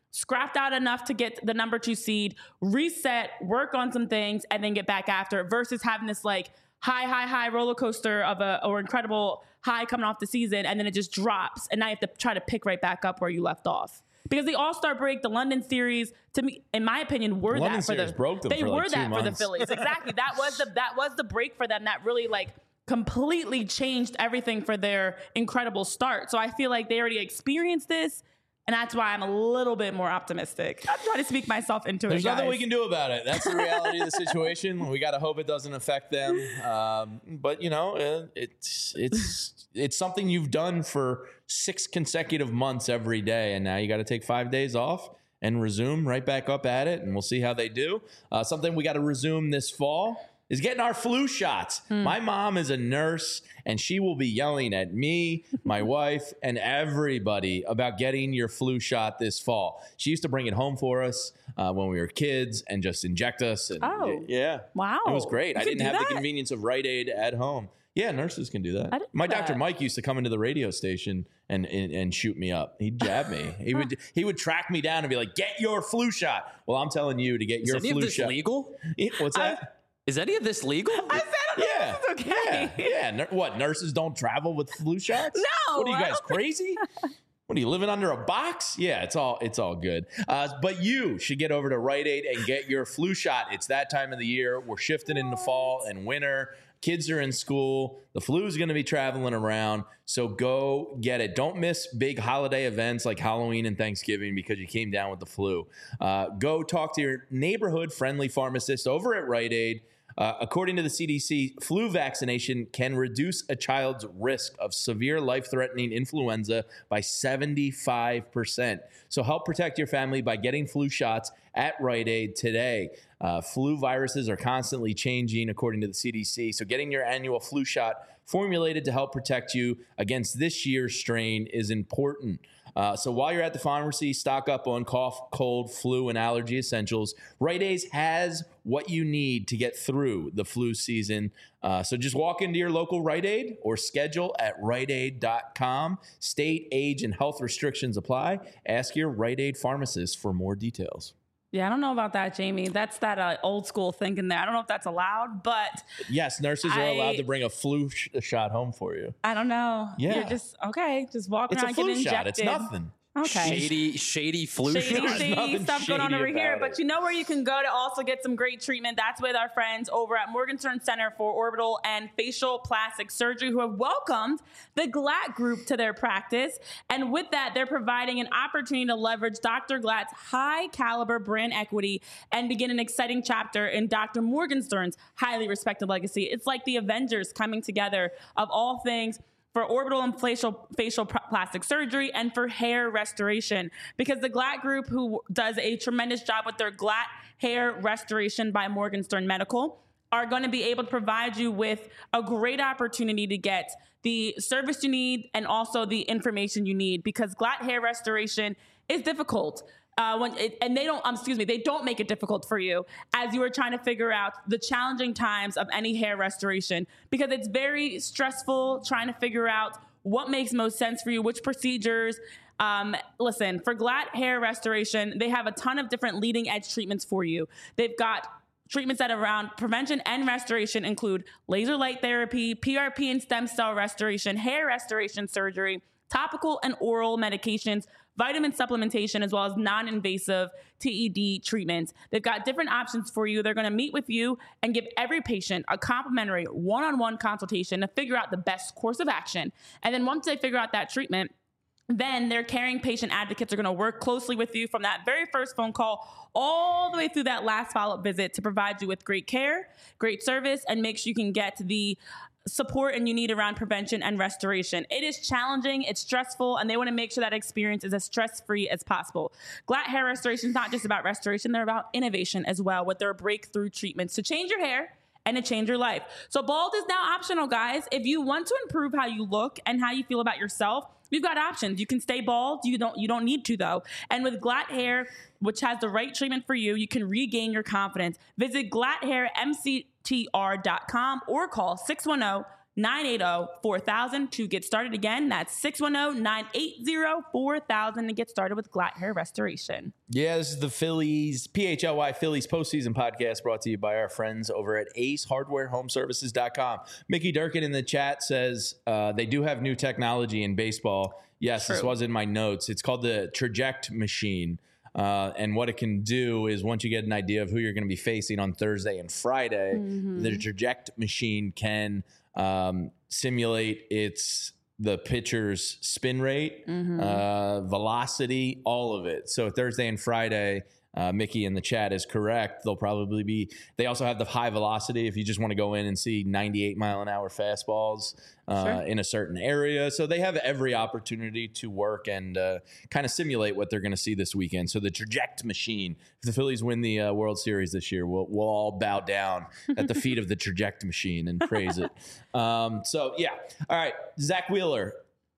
scrapped out enough to get the number two seed, reset, work on some things, and then get back after it versus having this like high, high, high roller coaster of a or incredible high coming off the season, and then it just drops, and now you have to try to pick right back up where you left off. Because the All-Star break, the London series, to me, in my opinion, were London that for series the broke them they for were like two that for the months. Phillies. Exactly. That was the that was the break for them that really like completely changed everything for their incredible start. So I feel like they already experienced this, and that's why I'm a little bit more optimistic. I'm trying to speak myself into There's it. There's nothing we can do about it. That's the reality of the situation. We got to hope it doesn't affect them. Um, but you know, uh, it's it's it's something you've done for six consecutive months every day, and now you got to take five days off and resume right back up at it, and we'll see how they do. Uh, something we got to resume this fall is getting our flu shots. Hmm. My mom is a nurse, and she will be yelling at me, my wife, and everybody about getting your flu shot this fall. She used to bring it home for us uh, when we were kids and just inject us. And Oh. yeah. Wow. It was great. You I can didn't do have that? the convenience of Rite Aid at home. Yeah, nurses can do that. I didn't My know doctor that. Mike used to come into the radio station and, and and shoot me up. He'd jab me. He would he would track me down and be like, "Get your flu shot." Well, I'm telling you to get Is your any flu of this shot. legal? Yeah, What's that? Is any of this legal? I said Yeah. this is okay. Yeah. Yeah. Nur- what? Nurses don't travel with flu shots? No, What are you I guys don't think- crazy? What are you living under a box? Yeah, it's all it's all good. Uh, but you should get over to Rite Aid and get your flu shot. It's that time of the year. We're shifting into fall and winter. Kids are in school. The flu is going to be traveling around. So go get it. Don't miss big holiday events like Halloween and Thanksgiving because you came down with the flu. Uh, go talk to your neighborhood friendly pharmacist over at Rite Aid. Uh, according to the C D C, flu vaccination can reduce a child's risk of severe life-threatening influenza by seventy-five percent. So help protect your family by getting flu shots at Rite Aid today. Uh, flu viruses are constantly changing, according to the C D C. So getting your annual flu shot formulated to help protect you against this year's strain is important. Uh, so while you're at the pharmacy, stock up on cough, cold, flu, and allergy essentials. Rite Aid has what you need to get through the flu season. Uh, so just walk into your local Rite Aid or schedule at rite aid dot com. State, age, and health restrictions apply. Ask your Rite Aid pharmacist for more details. Yeah, I don't know about that, Jamie. That's that uh, old school thinking there. I don't know if that's allowed, but Yes, nurses are I- allowed to bring a flu sh- shot home for you. I don't know. Yeah. You're just, okay, just walk It's around a flu getting shot. It's injected. nothing. Okay. Shady, shady flu Shady, shot. shady nothing stuff going on shady over here. about But it. you know where you can go to also get some great treatment? That's with our friends over at Morgenstern Center for Orbital and Facial Plastic Surgery, who have welcomed the Glatt Group to their practice. And with that, they're providing an opportunity to leverage Doctor Glatt's high caliber brand equity and begin an exciting chapter in Doctor Morgenstern's highly respected legacy. It's like the Avengers coming together of all things for orbital and facial, facial pr- plastic surgery and for hair restoration. Because the Glatt Group, who does a tremendous job with their Glatt Hair Restoration by Morgenstern Medical, are going to be able to provide you with a great opportunity to get the service you need and also the information you need, because Glatt Hair Restoration is difficult. Uh, when it, and they don't, um, excuse me, they don't make it difficult for you as you are trying to figure out the challenging times of any hair restoration, because it's very stressful trying to figure out what makes most sense for you, which procedures. Um, listen, for Glatt Hair Restoration, they have a ton of different leading edge treatments for you. They've got treatments that around prevention and restoration include laser light therapy, P R P and stem cell restoration, hair restoration surgery, topical and oral medications, vitamin supplementation, as well as non-invasive T E D treatments. They've got different options for you. They're going to meet with you and give every patient a complimentary one-on-one consultation to figure out the best course of action. And then once they figure out that treatment, then their caring patient advocates are going to work closely with you from that very first phone call all the way through that last follow-up visit to provide you with great care, great service, and make sure you can get the support and you need around prevention and restoration. It is challenging, it's stressful, and they want to make sure that experience is as stress-free as possible. Glatt Hair Restoration is not just about restoration, they're about innovation as well with their breakthrough treatments to change your hair and to change your life. So bald is now optional, guys. If you want to improve how you look and how you feel about yourself, we've got options. You can stay bald. You don't, you don't need to, though. And with Glatt Hair, which has the right treatment for you, you can regain your confidence. Visit glatt hair m c t r dot com or call six one zero, nine eight zero, four thousand to get started. Again, that's six one zero, nine eight zero, four thousand to get started with Glatt Hair Restoration. Yeah, this is the Phillies, P H L Y Phillies postseason podcast brought to you by our friends over at ace hardware home services dot com. Mickey Durkin in the chat says uh, they do have new technology in baseball. Yes, True. This was in my notes. It's called the Traject Machine. Uh, and what it can do is once you get an idea of who you're going to be facing on Thursday and Friday, mm-hmm. the Traject Machine can um, simulate its the pitcher's spin rate, mm-hmm. uh, velocity, all of it. So Thursday and Friday, uh, Mickey in the chat is correct. They'll probably be, they also have the high velocity if you just want to go in and see ninety-eight mile an hour fastballs uh, sure. in a certain area. So they have every opportunity to work and uh, kind of simulate what they're going to see this weekend. So the Traject Machine, if the Phillies win the uh, World Series this year, we'll, we'll all bow down at the feet of the Traject Machine and praise it. Um, so yeah. All right. Zach Wheeler.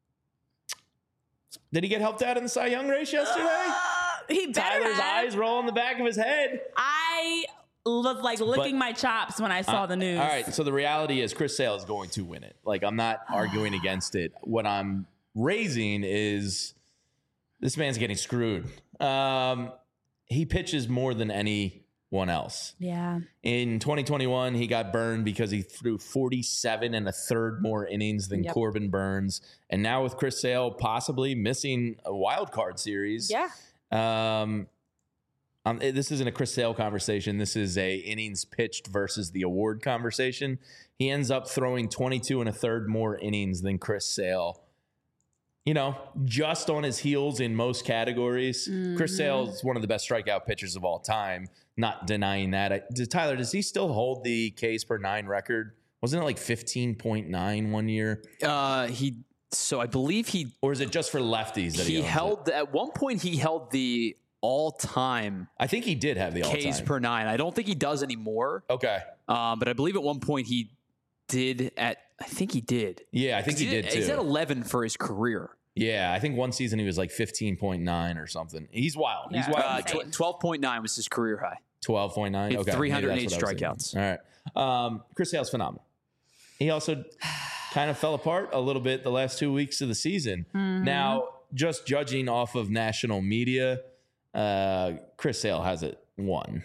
Did he get helped out in the Cy Young race yesterday? Uh, he Tyler's have. eyes roll in the back of his head. I was like licking But, my chops when I saw uh, the news. All right. So the reality is Chris Sale is going to win it. Like, I'm not arguing against it. What I'm raising is this man's getting screwed. Um, he pitches more than anyone else. Yeah. In twenty twenty-one, he got burned because he threw forty-seven and a third more innings than Yep. Corbin Burns. And now with Chris Sale possibly missing a wild card series. Yeah. Um, um, this isn't a Chris Sale conversation. This is a innings pitched versus the award conversation. He ends up throwing twenty-two and a third more innings than Chris Sale. You know, just on his heels in most categories. Mm-hmm. Chris Sale is one of the best strikeout pitchers of all time. Not denying that. I, does, Tyler, does he still hold the Ks per nine record? Wasn't it like fifteen point nine one year? Uh, he. So I believe he, or is it just for lefties that he, he held it? At one point he held the all-time. I think he did have the all-time Ks per nine. I don't think he does anymore. Okay, um, but I believe at one point he did. At I think he did. Yeah, I think he, he did, did too. He's at eleven for his career. Yeah, I think one season he was like fifteen point nine or something. He's wild. He's Yeah, wild. Uh, twelve point nine was his career high. twelve point nine. Okay, three hundred eight maybe strikeouts. All right. Um, Chris Sale's phenomenal. He also kind of fell apart a little bit the last two weeks of the season. Mm-hmm. Now, just judging off of national media, uh, Chris Sale hasn't won.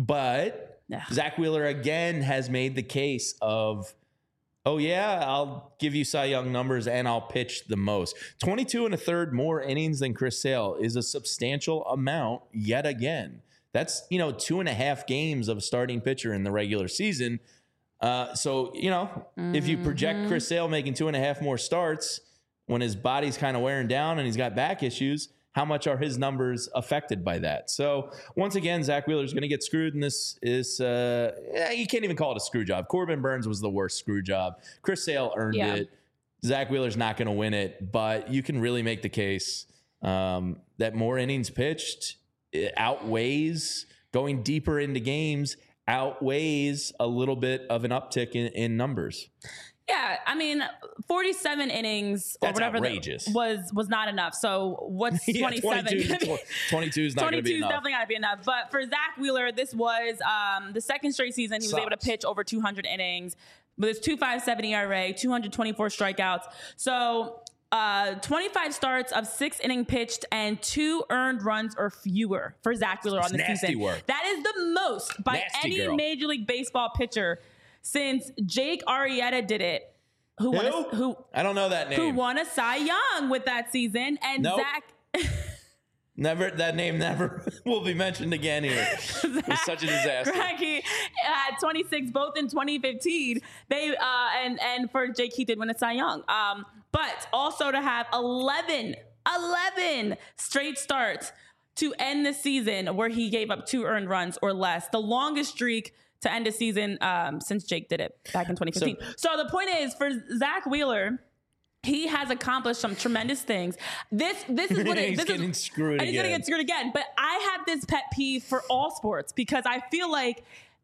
But yeah. Zach Wheeler again has made the case of, oh, yeah, I'll give you Cy Young numbers and I'll pitch the most. twenty-two and a third more innings than Chris Sale is a substantial amount yet again. That's, you know, two and a half games of a starting pitcher in the regular season. Uh, so, you know, mm-hmm. if you project Chris Sale making two and a half more starts when his body's kind of wearing down and he's got back issues, how much are his numbers affected by that? So once again, Zach Wheeler's going to get screwed in this. Is uh, yeah, you can't even call it a screw job. Corbin Burns was the worst screw job. Chris Sale earned yeah. it. Zach Wheeler's not going to win it, but you can really make the case um, that more innings pitched outweighs going deeper into games, outweighs a little bit of an uptick in, in numbers. Yeah, I mean, forty-seven innings That's or whatever outrageous. That was was not enough. So what's yeah, twenty-seven? twenty-two, twenty-two is not going to be twenty-two is enough. definitely not going to be enough. But for Zach Wheeler, this was um, the second straight season he was Sucks. able to pitch over two hundred innings with his two point five seven E R A, two hundred twenty-four strikeouts. So uh, twenty-five starts of six inning pitched and two earned runs or fewer for Zach Wheeler on the nasty season. Work. That is the most by Nasty any girl. Major League Baseball pitcher since Jake Arrieta did it. Who, won Who? a, who I don't know that name. who won a Cy Young with that season? And Nope. Zach, Never that name never will be mentioned again here. It was such a disaster. Greinke had twenty-six both in twenty fifteen. They uh, and and for Jake he did win a Cy Young. Um, but also to have eleven, eleven straight starts to end the season where he gave up two earned runs or less, the longest streak to end a season um, since Jake did it back in twenty fifteen. So, so the point is, for Zach Wheeler, he has accomplished some tremendous things. This this is what it, he's this getting is, screwed and he's again. gonna get screwed again. But I have this pet peeve for all sports because I feel like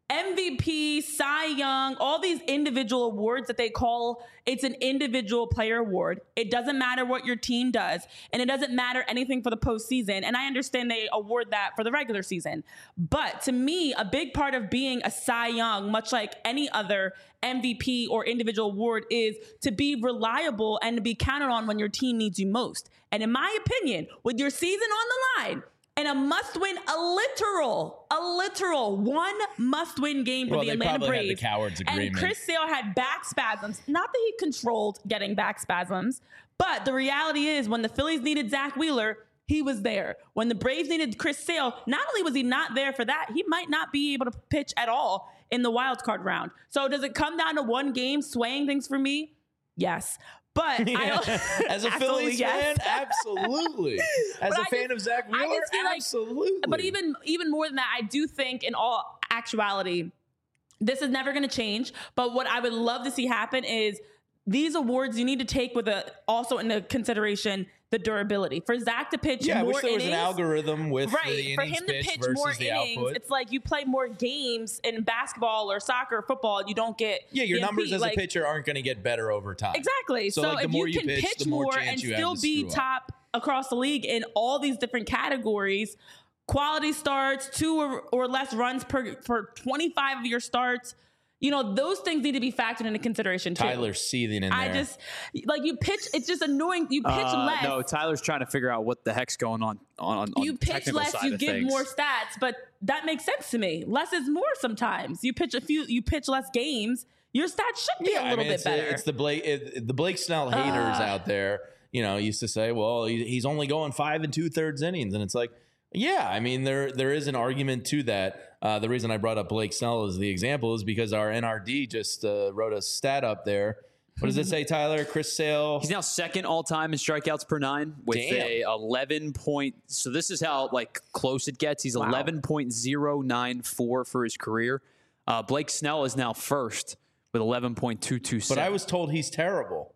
M V P, Cy Young, all these individual awards that they call, it's an individual player award. It doesn't matter what your team does, and it doesn't matter anything for the postseason. And I understand they award that for the regular season. But to me, a big part of being a Cy Young, much like any other M V P or individual award, is to be reliable and to be counted on when your team needs you most. And in my opinion, with your season on the line, and a must-win, a literal, a literal one must-win game for Well, the they Atlanta probably had Braves. the cowards agreement. And Chris Sale had back spasms. Not that he controlled getting back spasms, but the reality is when the Phillies needed Zach Wheeler, he was there. When the Braves needed Chris Sale, not only was he not there for that, he might not be able to pitch at all in the wild card round. So does it come down to one game swaying things for me? Yes. But Yeah. I, As a absolutely Phillies yes. fan, absolutely. As But a I fan just- of Zach I Wheeler, just feel like- absolutely. But even even more than that, I do think in all actuality, this is never going to change. But what I would love to see happen is these awards you need to take with a also into consideration the durability. For Zach to pitch yeah, I more wish there was innings, an algorithm with right? the For innings him to pitched pitch versus more the innings, output. it's like you play more games in basketball or soccer, or football, and you don't get Yeah, your the M V P. numbers as Like, a pitcher aren't going to get better over time. Exactly. So, So, like, the if more you you can pitch, pitch the more more chance and you have still to be screw up. top across the league in all these different categories, quality starts, two or, or less runs per for twenty-five of your starts, you know, those things need to be factored into consideration too. Tyler's seething in I there. just like you pitch. It's just annoying. You pitch Uh, less. No, Tyler's trying to figure out what the heck's going on on, on you the pitch technical less. side You of give things. more stats, but that makes sense to me. Less is more sometimes. You pitch a few. You pitch less games. Your stats should be yeah, a I little mean, bit it's, better. it's the Blake it, the Blake Snell haters Uh. out there. You know, used to say, well, he, he's only going five and two thirds innings, and it's like, yeah, I mean, there there is an argument to that. Uh, the reason I brought up Blake Snell as the example is because our N R D just uh, wrote a stat up there. What does it say, Tyler? Chris Sale. He's now second all time in strikeouts per nine with Damn. a eleven point. So this is how like close it gets. He's Wow. eleven point zero nine four for his career. Uh, Blake Snell is now first with eleven point two two seven. But I was told he's terrible.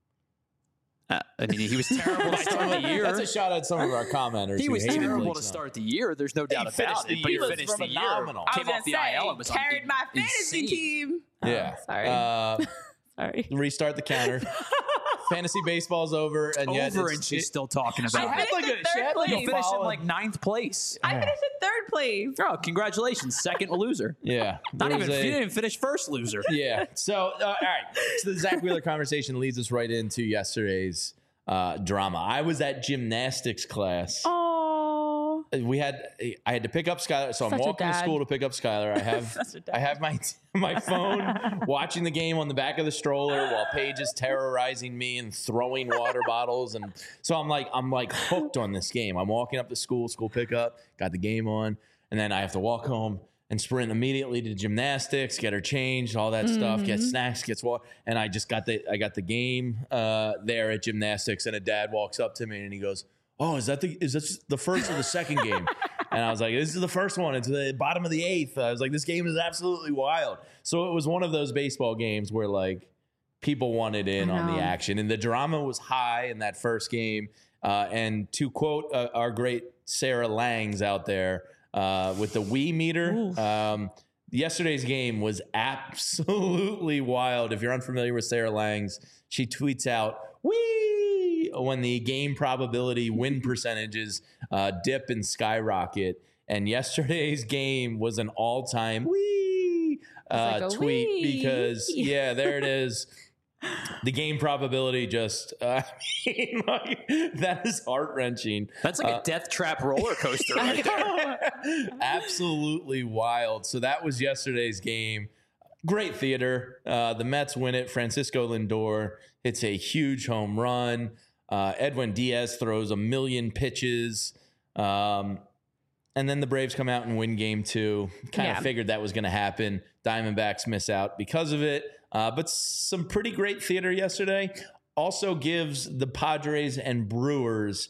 Uh, I mean, he was terrible to start the year. That's a shot at some of our commenters. He who was hated terrible Blake to Snell. start the year. There's no doubt finished about the it. But he year. He was finished the year. phenomenal. I Came was off the gonna I L say, and was carried my fantasy insane. team. Yeah. Oh, sorry. Uh, Sorry. restart the counter. Fantasy baseball's over, and yet Over, it's- and she's it- still talking She about had it. like a, finished she in had like third a He finished in follow- like ninth place. I finished in third place. Oh, congratulations, second loser. Yeah. Not There even was a- you didn't even finish first loser. Yeah. So, uh, all right. So the Zach Wheeler conversation leads us right into yesterday's uh, drama. I was at gymnastics class. Oh. We had I had to pick up Skylar, so I'm Such a walking to dad. school to pick up Skylar. I have Such a dad. I have my my phone watching the game on the back of the stroller while Paige is terrorizing me and throwing water bottles, and so I'm like I'm like hooked on this game. I'm walking up to school, school pickup, got the game on, and then I have to walk home and sprint immediately to gymnastics, get her changed, all that stuff, get snacks, gets water, and I just got the I got the game uh, there at gymnastics, and a dad walks up to me and he goes, "Oh, is that the is this the first or the second game?" And I was like, "This is the first one. It's the bottom of the eighth." I was like, "This game is absolutely wild." So it was one of those baseball games where like people wanted in I on the know. action, and the drama was high in that first game. Uh, and to quote uh, our great Sarah Langs out there uh, with the Wii meter. Um, Yesterday's game was absolutely wild. If you're unfamiliar with Sarah Langs, she tweets out, "Wee!" when the game probability win percentages uh, dip and skyrocket. And yesterday's game was an all-time wee uh, like a tweet wee. because, yeah, there it is. The game probability just, uh, I mean, like, that is heart-wrenching. That's like a death trap roller coaster right there. Absolutely wild. So that was yesterday's game. Great theater. Uh, the Mets win it. Francisco Lindor hits a huge home run. Uh, Edwin Diaz throws a million pitches. Um, and then the Braves come out and win game two. Kind of Yeah. figured that was going to happen. Diamondbacks miss out because of it. Uh, but some pretty great theater yesterday. Also gives the Padres and Brewers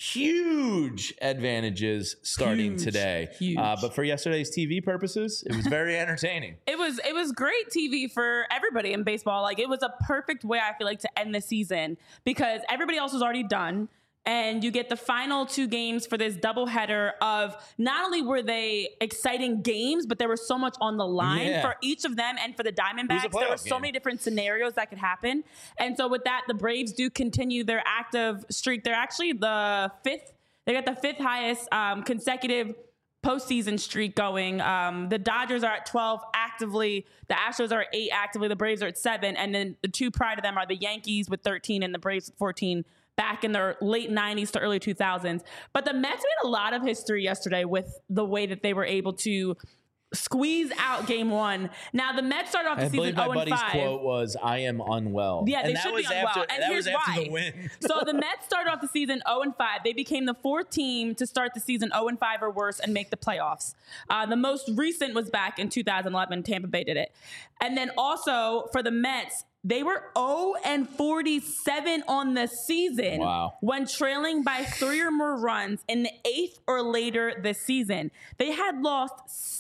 huge advantages starting Huge, today. huge. Uh, but for yesterday's T V purposes, it was very entertaining. It was it was great T V for everybody in baseball. Like it was a perfect way I feel like to end the season because everybody else was already done. and you get the final two games for this doubleheader of not only were they exciting games, but there was so much on the line Yeah. for each of them and for the Diamondbacks. playoff There were so game. many different scenarios that could happen. And so with that, the Braves do continue their active streak. They're actually the fifth. They got the fifth highest um, consecutive postseason streak going. Um, the Dodgers are at twelve actively. The Astros are at eight actively. The Braves are at seven. And then the two prior to them are the Yankees with thirteen and the Braves with fourteen back in their late nineties to early two thousands. But the Mets made a lot of history yesterday with the way that they were able to squeeze out game one. Now, the Mets started off the I season believe my oh and buddy's five. quote was, "I am unwell." Yeah, they and that should was be unwell. after, And that here's was after why. the win. So the Mets started off the season oh and five. They became the fourth team to start the season oh and five or worse and make the playoffs. Uh, the most recent was back in two thousand eleven. Tampa Bay did it. And then also for the Mets, they were oh and forty-seven on the season Wow. when trailing by three or more runs in the eighth or later this season. They had lost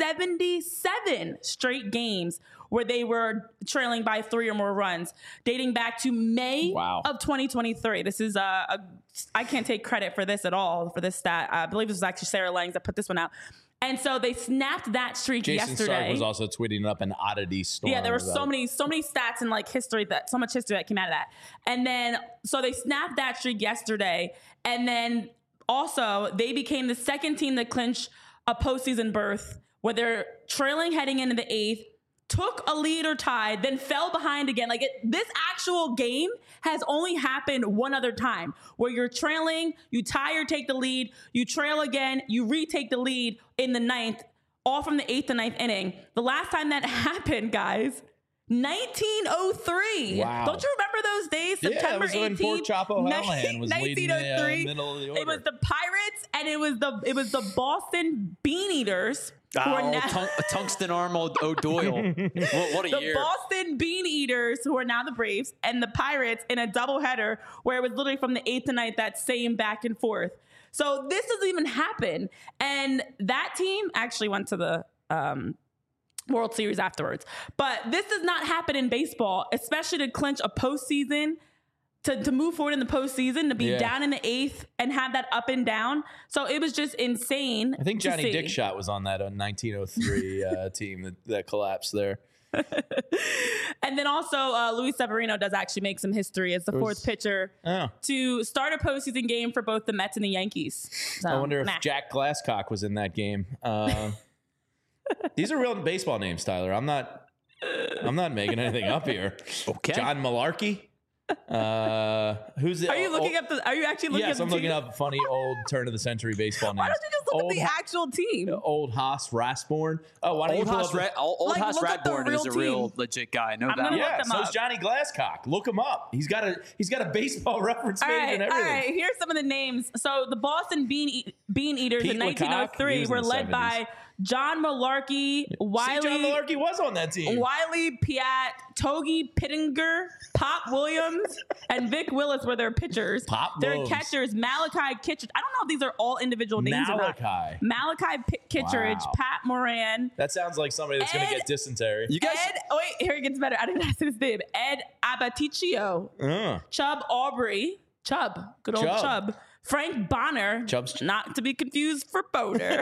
seventy-seven straight games where they were trailing by three or more runs, dating back to May Wow. of twenty twenty-three. This is a, a I can't take credit for this at all, for this stat. I believe this was actually Sarah Langs that put this one out. And so they snapped that streak Jason yesterday. Stark was also tweeting up an oddity storm. Yeah, there were so about- many, so many stats and like history that so much history that came out of that. And then so they snapped that streak yesterday, and then also they became the second team to clinch a postseason berth where they're trailing heading into the eighth, took a lead or tied, then fell behind again. Like it, this actual game has only happened one other time where you're trailing, you tie or take the lead, you trail again, you retake the lead in the ninth, all from the eighth and ninth inning. The last time that happened, guys, nineteen oh three. Wow. Don't you remember those days? Yeah, it September was when eighteenth, Port Chop O'Hallahan was leading the, uh, nineteen oh three. middle of the It was order. the Pirates and it was the it was the Boston Bean Eaters. Who are Oh, now- tung- tungsten arm O- O'Doyle. what, what a the year. Boston Bean Eaters, who are now the Braves, and the Pirates in a doubleheader where it was literally from the eighth to ninth, that same back and forth. So this doesn't even happen. And that team actually went to the um, World Series afterwards. But this does not happen in baseball, especially to clinch a postseason. To, to move forward in the postseason, to be Yeah. down in the eighth and have that up and down. So it was just insane. I think to Johnny see. Dickshot was on that uh, nineteen oh three uh, team that, that collapsed there. And then also, uh, Luis Severino does actually make some history as the was- fourth pitcher Oh, to start a postseason game for both the Mets and the Yankees. So, I wonder if nah. Jack Glasscock was in that game. Uh, these are real baseball names, Tyler. I'm not. I'm not making anything up here. Okay. John Malarkey. Uh, who's the? Are you looking oh, up the? Are you actually looking Yes, up? I'm the looking team? up funny old turn of the century baseball names. Why don't you just look old, at the Ha- actual team? old Haas Rasborn. Oh, why don't Old you pull Haas, up the- Ra- old Like, Haas look up the Radborn is a real real team. legit guy. I know I'm that. gonna one. Yeah, them so up. is Johnny Glasscock. Look him up. He's got a he's got a baseball reference All page right, and all everything. right. Here's some of the names. So the Boston Bean e- Bean Eaters Pete in Lecoq, nineteen oh he three was in were the led by John Malarkey, See, Wiley, John Malarkey was on that team. Wiley Piat, Togi Pittenger, Pop Williams, and Vic Willis were their pitchers. Pop Their Williams. catchers, Malachi Kittredge. I don't know if these are all individual names or not. Malachi. Malachi P- Kittredge, Wow. Pat Moran, That sounds like somebody that's going to Ed- get dysentery. You guys, Ed. Oh wait, here it gets better. I didn't ask his name. Ed Abaticcio, Uh, Chubb Aubrey, Chubb, good old Chubb. Chubb. Frank Bonner, Chubb's- not to be confused for Boner,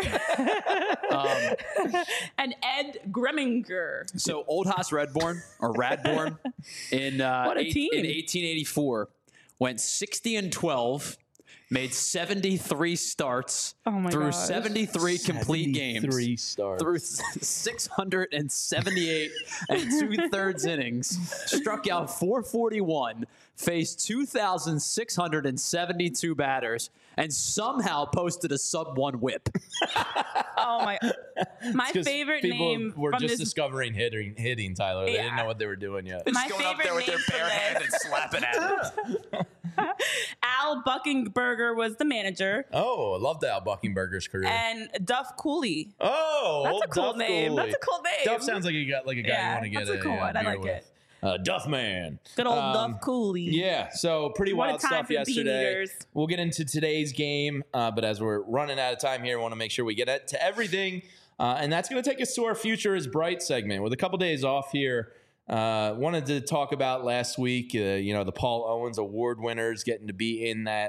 um, and Ed Greminger. so old Haas Redborn or Radborn in uh, What a eight- team. in eighteen eighty-four went sixty and twelve, made seventy-three starts Oh my through gosh. seventy-three complete games. Three stars. Through six hundred seventy-eight and two thirds innings, struck out four forty-one, faced two thousand six hundred seventy-two batters, and somehow posted a sub one whip. Oh my! My 'Cause favorite people name were from just this. discovering hitting, hitting Tyler. They didn't Yeah. know what they were doing yet. My Just going up favorite there with their name from bare hand this. and slapping at it. Al Buckenberger was the manager, Oh, I love Al Buckenberger's career. and Duff Cooley. oh, That's old a cool Duff name. Cooley. That's a cool name. Duff sounds like you got like a guy Yeah, you want to get that's a cool uh, one. I beer like with. it. Uh, Duff Man. Good old Um, Duff Cooley. Yeah, so pretty What a wild time stuff for Bean yesterday. Eaters. We'll get into today's game, uh, but as we're running out of time here, I want to make sure we get it to everything, uh, and that's going to take us to our Future is Bright segment. With a couple days off here, uh, wanted to talk about last week, uh, you know, the Paul Owens Award winners getting to be in that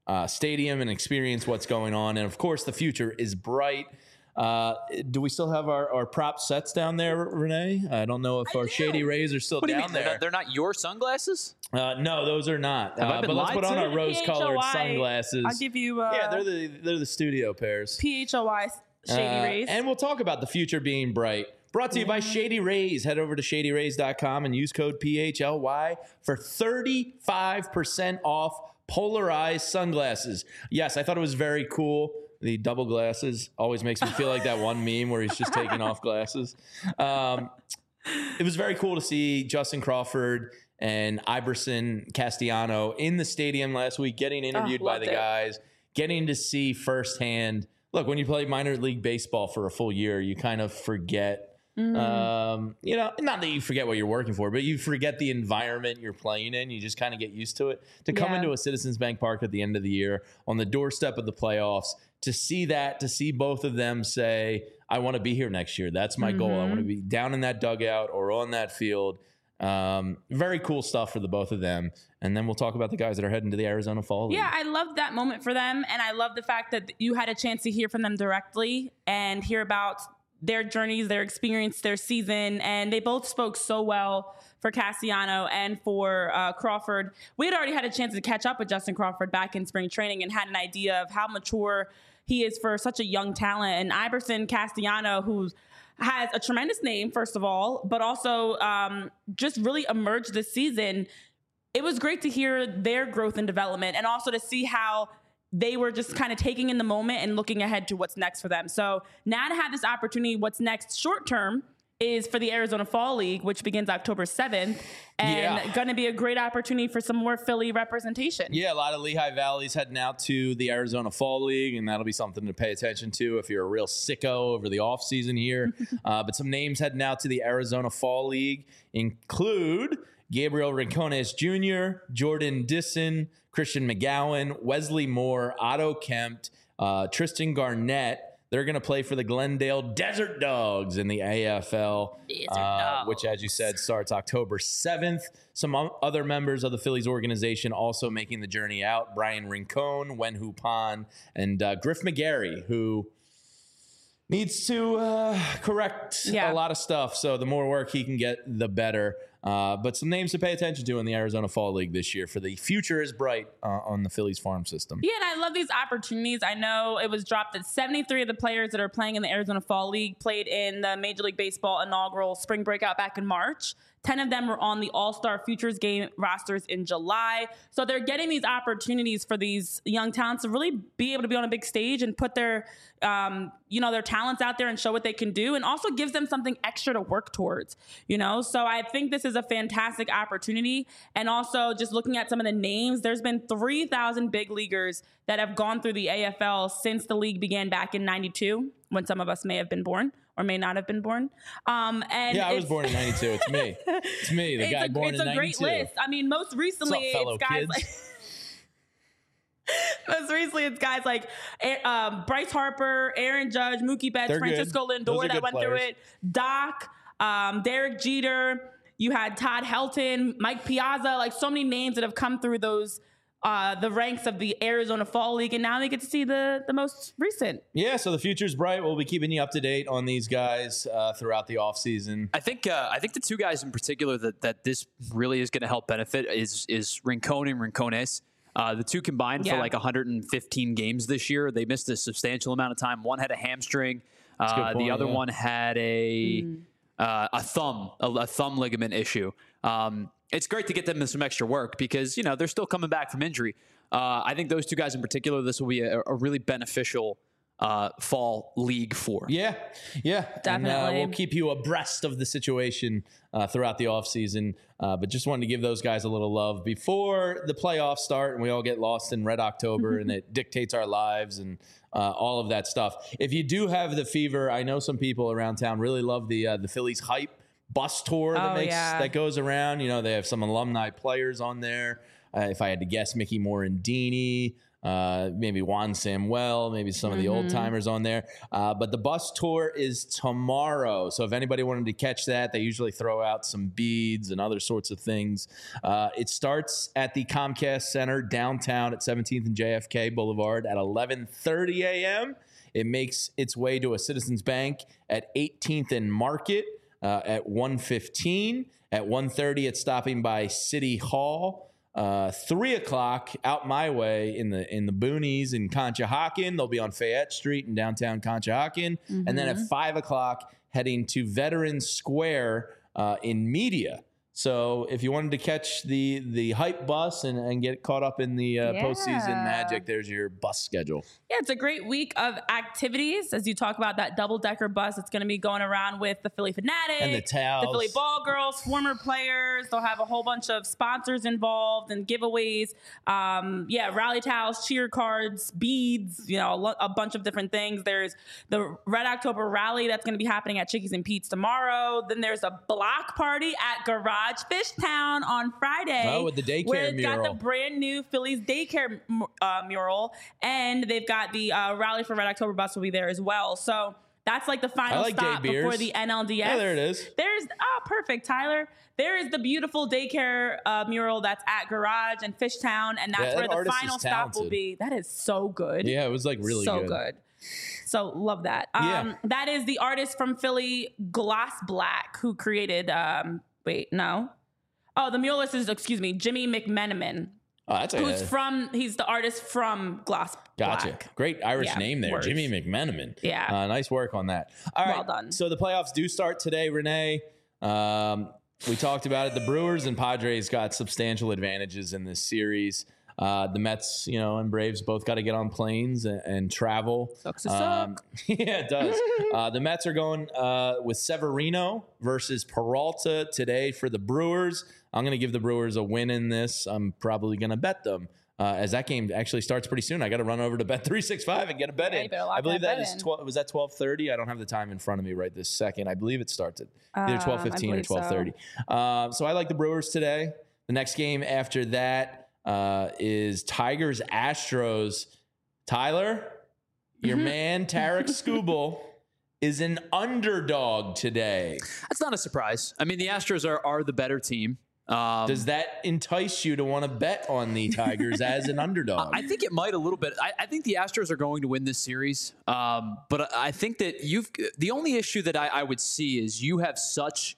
uh, stadium and experience what's going on. And of course, the future is bright. Uh, do we still have our, our prop sets down there, Renee? I don't know if I our do. Shady Rays are still What do you down mean? They're there. not, they're not your sunglasses? Uh, no, those are not. Have I Uh, been but let's lied put on to? our rose-colored P H O I. sunglasses. I'll give you. Uh, yeah, they're the they're the studio pairs. P H O Y Shady Uh, Rays. And we'll talk about the future being bright. Brought to you by Shady Rays. Head over to shady rays dot com and use code P H L Y for thirty-five percent off polarized sunglasses. Yes, I thought it was very cool. The double glasses always makes me feel like that one meme where he's just taking off glasses. Um, it was very cool to see Justin Crawford and Iverson Castellano in the stadium last week, getting interviewed by loved the it. guys, getting to see firsthand. Look, when you play minor league baseball for a full year, you kind of forget. Um, you know, not that you forget what you're working for, but you forget the environment you're playing in. You just kind of get used to it. To come Yeah. into a Citizens Bank Park at the end of the year on the doorstep of the playoffs, to see that, to see both of them say, I want to be here next year. That's my goal. I want to be down in that dugout or on that field. Um, very cool stuff for the both of them. And then we'll talk about the guys that are heading to the Arizona Fall League. Yeah, I love that moment for them. And I love the fact that you had a chance to hear from them directly and hear about their journeys, their experience, their season. And they both spoke so well for Castellano and for uh, Crawford. We had already had a chance to catch up with Justin Crawford back in spring training and had an idea of how mature he is for such a young talent. And Iverson Castellano, who's has a tremendous name, first of all, but also um, just really emerged this season. It was great to hear their growth and development and also to see how they were just kind of taking in the moment and looking ahead to what's next for them. So now to have this opportunity, what's next short term is for the Arizona Fall League, which begins October seventh, and Yeah. going to be a great opportunity for some more Philly representation. Yeah, a lot of Lehigh Valley's heading out to the Arizona Fall League, and that'll be something to pay attention to if you're a real sicko over the offseason here. uh, but some names heading out to the Arizona Fall League include Gabriel Rincones Junior, Jordan Disson, Christian McGowan, Wesley Moore, Otto Kempt, uh, Tristan Garnett. They're going to play for the Glendale Desert Dogs in the A F L, uh, which, as you said, starts October seventh. Some o- other members of the Phillies organization also making the journey out. Brian Rincon, Wen Hupan, and uh, Griff McGarry, who needs to uh, correct Yeah. a lot of stuff. So the more work he can get, the better. Uh, but some names to pay attention to in the Arizona Fall League this year, for the future is bright uh, on the Phillies farm system. Yeah, and I love these opportunities. I know it was dropped that seventy-three of the players that are playing in the Arizona Fall League played in the Major League Baseball inaugural spring breakout back in March. ten of them were on the All-Star Futures Game rosters in July. So they're getting these opportunities for these young talents to really be able to be on a big stage and put their, um, you know, their talents out there and show what they can do, and also gives them something extra to work towards, you know? So I think this is a fantastic opportunity. And also just looking at some of the names, there's been three thousand big leaguers that have gone through the A F L since the league began back in ninety-two, when some of us may have been born or may not have been born. Um, and Yeah, I was it's- born in ninety-two. It's me. It's me, the it's guy a, born it's in a great ninety-two. list. I mean, most recently, What's up, fellow it's guys kids? like most recently it's guys like um, Bryce Harper, Aaron Judge, Mookie Betts, They're good. Francisco Those Lindor are that good went through players. it, Doc, um, Derek Jeter. You had Todd Helton, Mike Piazza, like so many names that have come through those uh, the ranks of the Arizona Fall League, and now they get to see the the most recent. Yeah, so the future's bright. We'll be keeping you up to date on these guys uh, throughout the offseason. I think uh, I think the two guys in particular that, that this really is going to help benefit is is Rincon and Rincones. Uh, the two combined Yeah. for like one hundred fifteen games this year. They missed a substantial amount of time. One had a hamstring. a good Uh, point, the other yeah. one had a Mm. uh, a thumb a, a thumb ligament issue. Um, it's great to get them some extra work because you know they're still coming back from injury. Uh, I think those two guys in particular, this will be a, a really beneficial uh, fall league for. Yeah, yeah. And, uh, Definitely. we'll keep you abreast of the situation uh, throughout the offseason. Uh, but just wanted to give those guys a little love before the playoffs start and we all get lost in Red October and it dictates our lives and uh, all of that stuff. If you do have the fever, I know some people around town really love the uh, the Phillies Hype bus tour that Oh, makes yeah. that goes around. You know, they have some alumni players on there. Uh, if I had to guess, Mickey Morandini, Uh, maybe Juan Samuel, maybe some of the old timers on there. Uh, but the bus tour is tomorrow. So if anybody wanted to catch that, they usually throw out some beads and other sorts of things. Uh, it starts at the Comcast Center downtown at seventeenth and J F K Boulevard at eleven thirty a.m. It makes its way to a Citizens Bank at eighteenth and Market uh, at one fifteen. At one thirty, it's stopping by City Hall. Uh, three o'clock out my way in the in the boonies in Conshohocken. They'll be on Fayette Street in downtown Conshohocken. Mm-hmm. And then at five o'clock, heading to Veterans Square uh, in Media. So if you wanted to catch the the hype bus and, and get caught up in the uh, Yeah. postseason magic, there's your bus schedule. Yeah, it's a great week of activities. As you talk about that double-decker bus, it's going to be going around with the Philly Fanatic, And the towels. the Philly Ball Girls, former players. They'll have a whole bunch of sponsors involved and giveaways. Um, yeah, rally towels, cheer cards, beads, you know, a, lo- a bunch of different things. There's the Red October Rally that's going to be happening at Chickies and Pete's tomorrow. Then there's a block party at Garage Fish Town on Friday. Oh, with the daycare where it's got mural. the brand new Phillies daycare uh, mural, and they've got the uh, Rally for Red October bus will be there as well. So that's like the final I like stop day beers. before the N L D S. Yeah, there it is. There's oh, perfect, Tyler. There is the beautiful daycare uh, mural that's at Garage and Fishtown, and that's Yeah, that where the artist final is stop will talented. be. That is so good. Yeah, it was like really so good. good. So love that. Um, Yeah. That is the artist from Philly, Gloss Black, who created. Um, wait, no. Oh, the muralist is excuse me, Jimmy McMenamin, Oh, that's a who's from. He's the artist from Gloss Gotcha. Black. Great Irish Yeah, name there, words. Jimmy McMenamin. Yeah. Uh, nice work on that. All right. Well done. So the playoffs do start today, Renee. Um, we talked about it. The Brewers and Padres got substantial advantages in this series. Uh, the Mets, you know, and Braves both got to get on planes and, and travel. Sucks to Um, yeah, it does. uh, the Mets are going uh, with Severino versus Peralta today for the Brewers. I'm going to give the Brewers a win in this. I'm probably going to bet them. Uh, as that game actually starts pretty soon, I got to run over to Bet three sixty-five and get a bet Yeah, you in. better lock I believe that that bet is in. twelve. Was that twelve thirty? I don't have the time in front of me right this second. I believe it starts at either Um, twelve I fifteen or believe so. twelve thirty. Uh, so I like the Brewers today. The next game after that uh, is Tigers Astros. Tyler, your Mm-hmm. man Tarek Skubal is an underdog today. That's not a surprise. I mean, the Astros are, are the better team. Um, Does that entice you to want to bet on the Tigers as an underdog? I think it might a little bit. I, I think the Astros are going to win this series. Um, but I think that you've the only issue that I, I would see is you have such.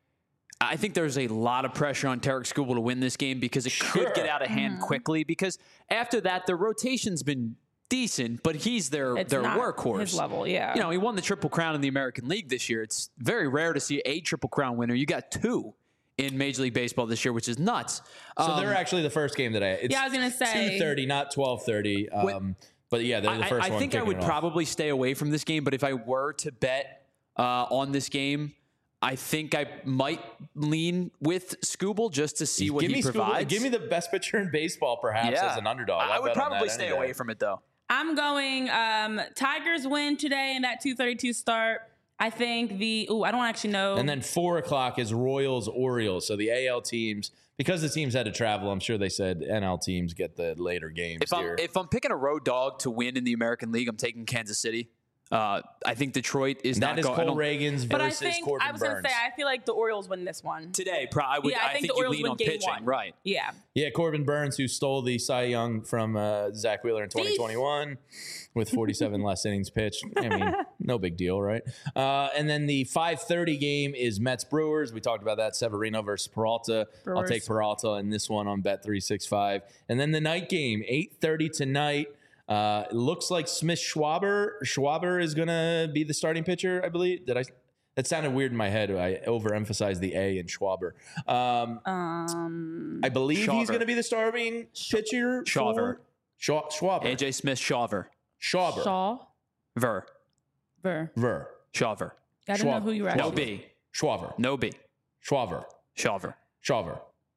I think there's a lot of pressure on Tarek Skubal to win this game because it Sure. could get out of hand Mm-hmm. quickly. Because after that, their rotation's been decent, but he's their It's their not workhorse. his level, yeah. You know, he won the Triple Crown in the American League this year. It's very rare to see a Triple Crown winner. You got two in Major League Baseball this year, which is nuts. so Um, they're actually the first game that I. It's Yeah, I was gonna say- two thirty, not twelve thirty. Um, but yeah, they're the I, first I one. think I kicking would it off. probably stay away from this game, but if I were to bet uh, on this game, I think I might lean with Skubal just to see what give he me Skubal- provides. give me the best pitcher in baseball, perhaps, yeah. as an underdog. I, I I'll would bet on probably that stay any day. away from it though. I'm going um, Tigers win today in that two thirty-two start. I think the ooh, I don't actually know. And then four o'clock is Royals Orioles. So the A L teams, because the teams had to travel, I'm sure they said N L teams get the later games If I'm here. if I'm picking a road dog to win in the American League, I'm taking Kansas City. Uh, I think Detroit is that not is going. Cole Reagan's but I versus think Corbin I was going to Burns. say I feel like the Orioles win this one. today. Pro- I would. Yeah, I I think think the you Orioles lean win on game pitching, one. right? Yeah. Yeah, Corbin Burns, who stole the Cy Young from uh, Zach Wheeler in twenty twenty-one with forty-seven less innings pitched. I mean, no big deal, right? Uh, and then the five thirty game is Mets Brewers. We talked about that. Severino versus Peralta. I'll Brewers. take Peralta in this one on Bet three sixty-five. And then the night game, eight thirty tonight. Uh, it looks like Smith Schwaber. Schwaber is going to be the starting pitcher, I believe. Did I? That sounded weird in my head. I overemphasized the A in Schwaber. Um, Um, I believe he's Schwaber. going to be the starting pitcher. Schwaber. for- Schwa- Schwaber. A J Smith, Shaver, Schwaber. Shaw. Ver, Ver. Ver. Shaver. I don't know Schwab. who you were No actually. B, Schwaber. no B, Schwaber. Shaver. Schwaber.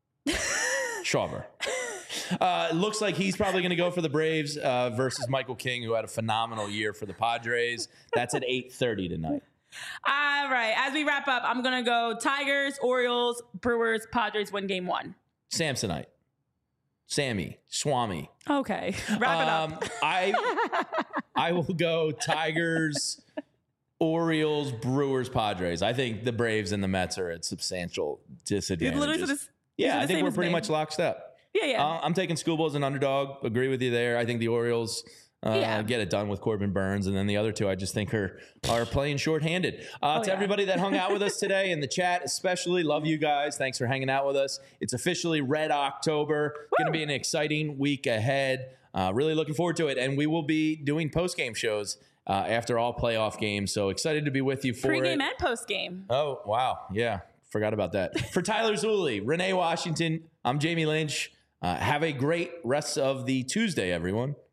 Schwaber. Uh, it looks like he's probably going to go for the Braves uh, versus Michael King, who had a phenomenal year for the Padres. That's at eight thirty tonight. All right. As we wrap up, I'm going to go Tigers, Orioles, Brewers, Padres win game one. Samsonite. Sammy, Swami. Okay, wrap it Um, up. I I will go Tigers, Orioles, Brewers, Padres. I think the Braves and the Mets are at substantial You disadvantages. literally said this. you yeah, said I the think same we're as pretty me. much locked up. Yeah, yeah. Uh, I'm taking Schoolboy as an underdog. Agree with you there. I think the Orioles uh, Yeah. get it done with Corbin Burns, and then the other two I just think are are playing shorthanded. Uh, Oh, to yeah. everybody that hung out with us today in the chat, especially love you guys. Thanks for hanging out with us. It's officially Red October. Going to be an exciting week ahead. Uh, really looking forward to it, and we will be doing post game shows uh, after all playoff games. So excited to be with you for Pre-game it. and post-game. Oh wow, yeah, forgot about that. For Tyler Zulli, Renee Washington, I'm Jamie Lynch. Uh, have a great rest of the Tuesday, everyone.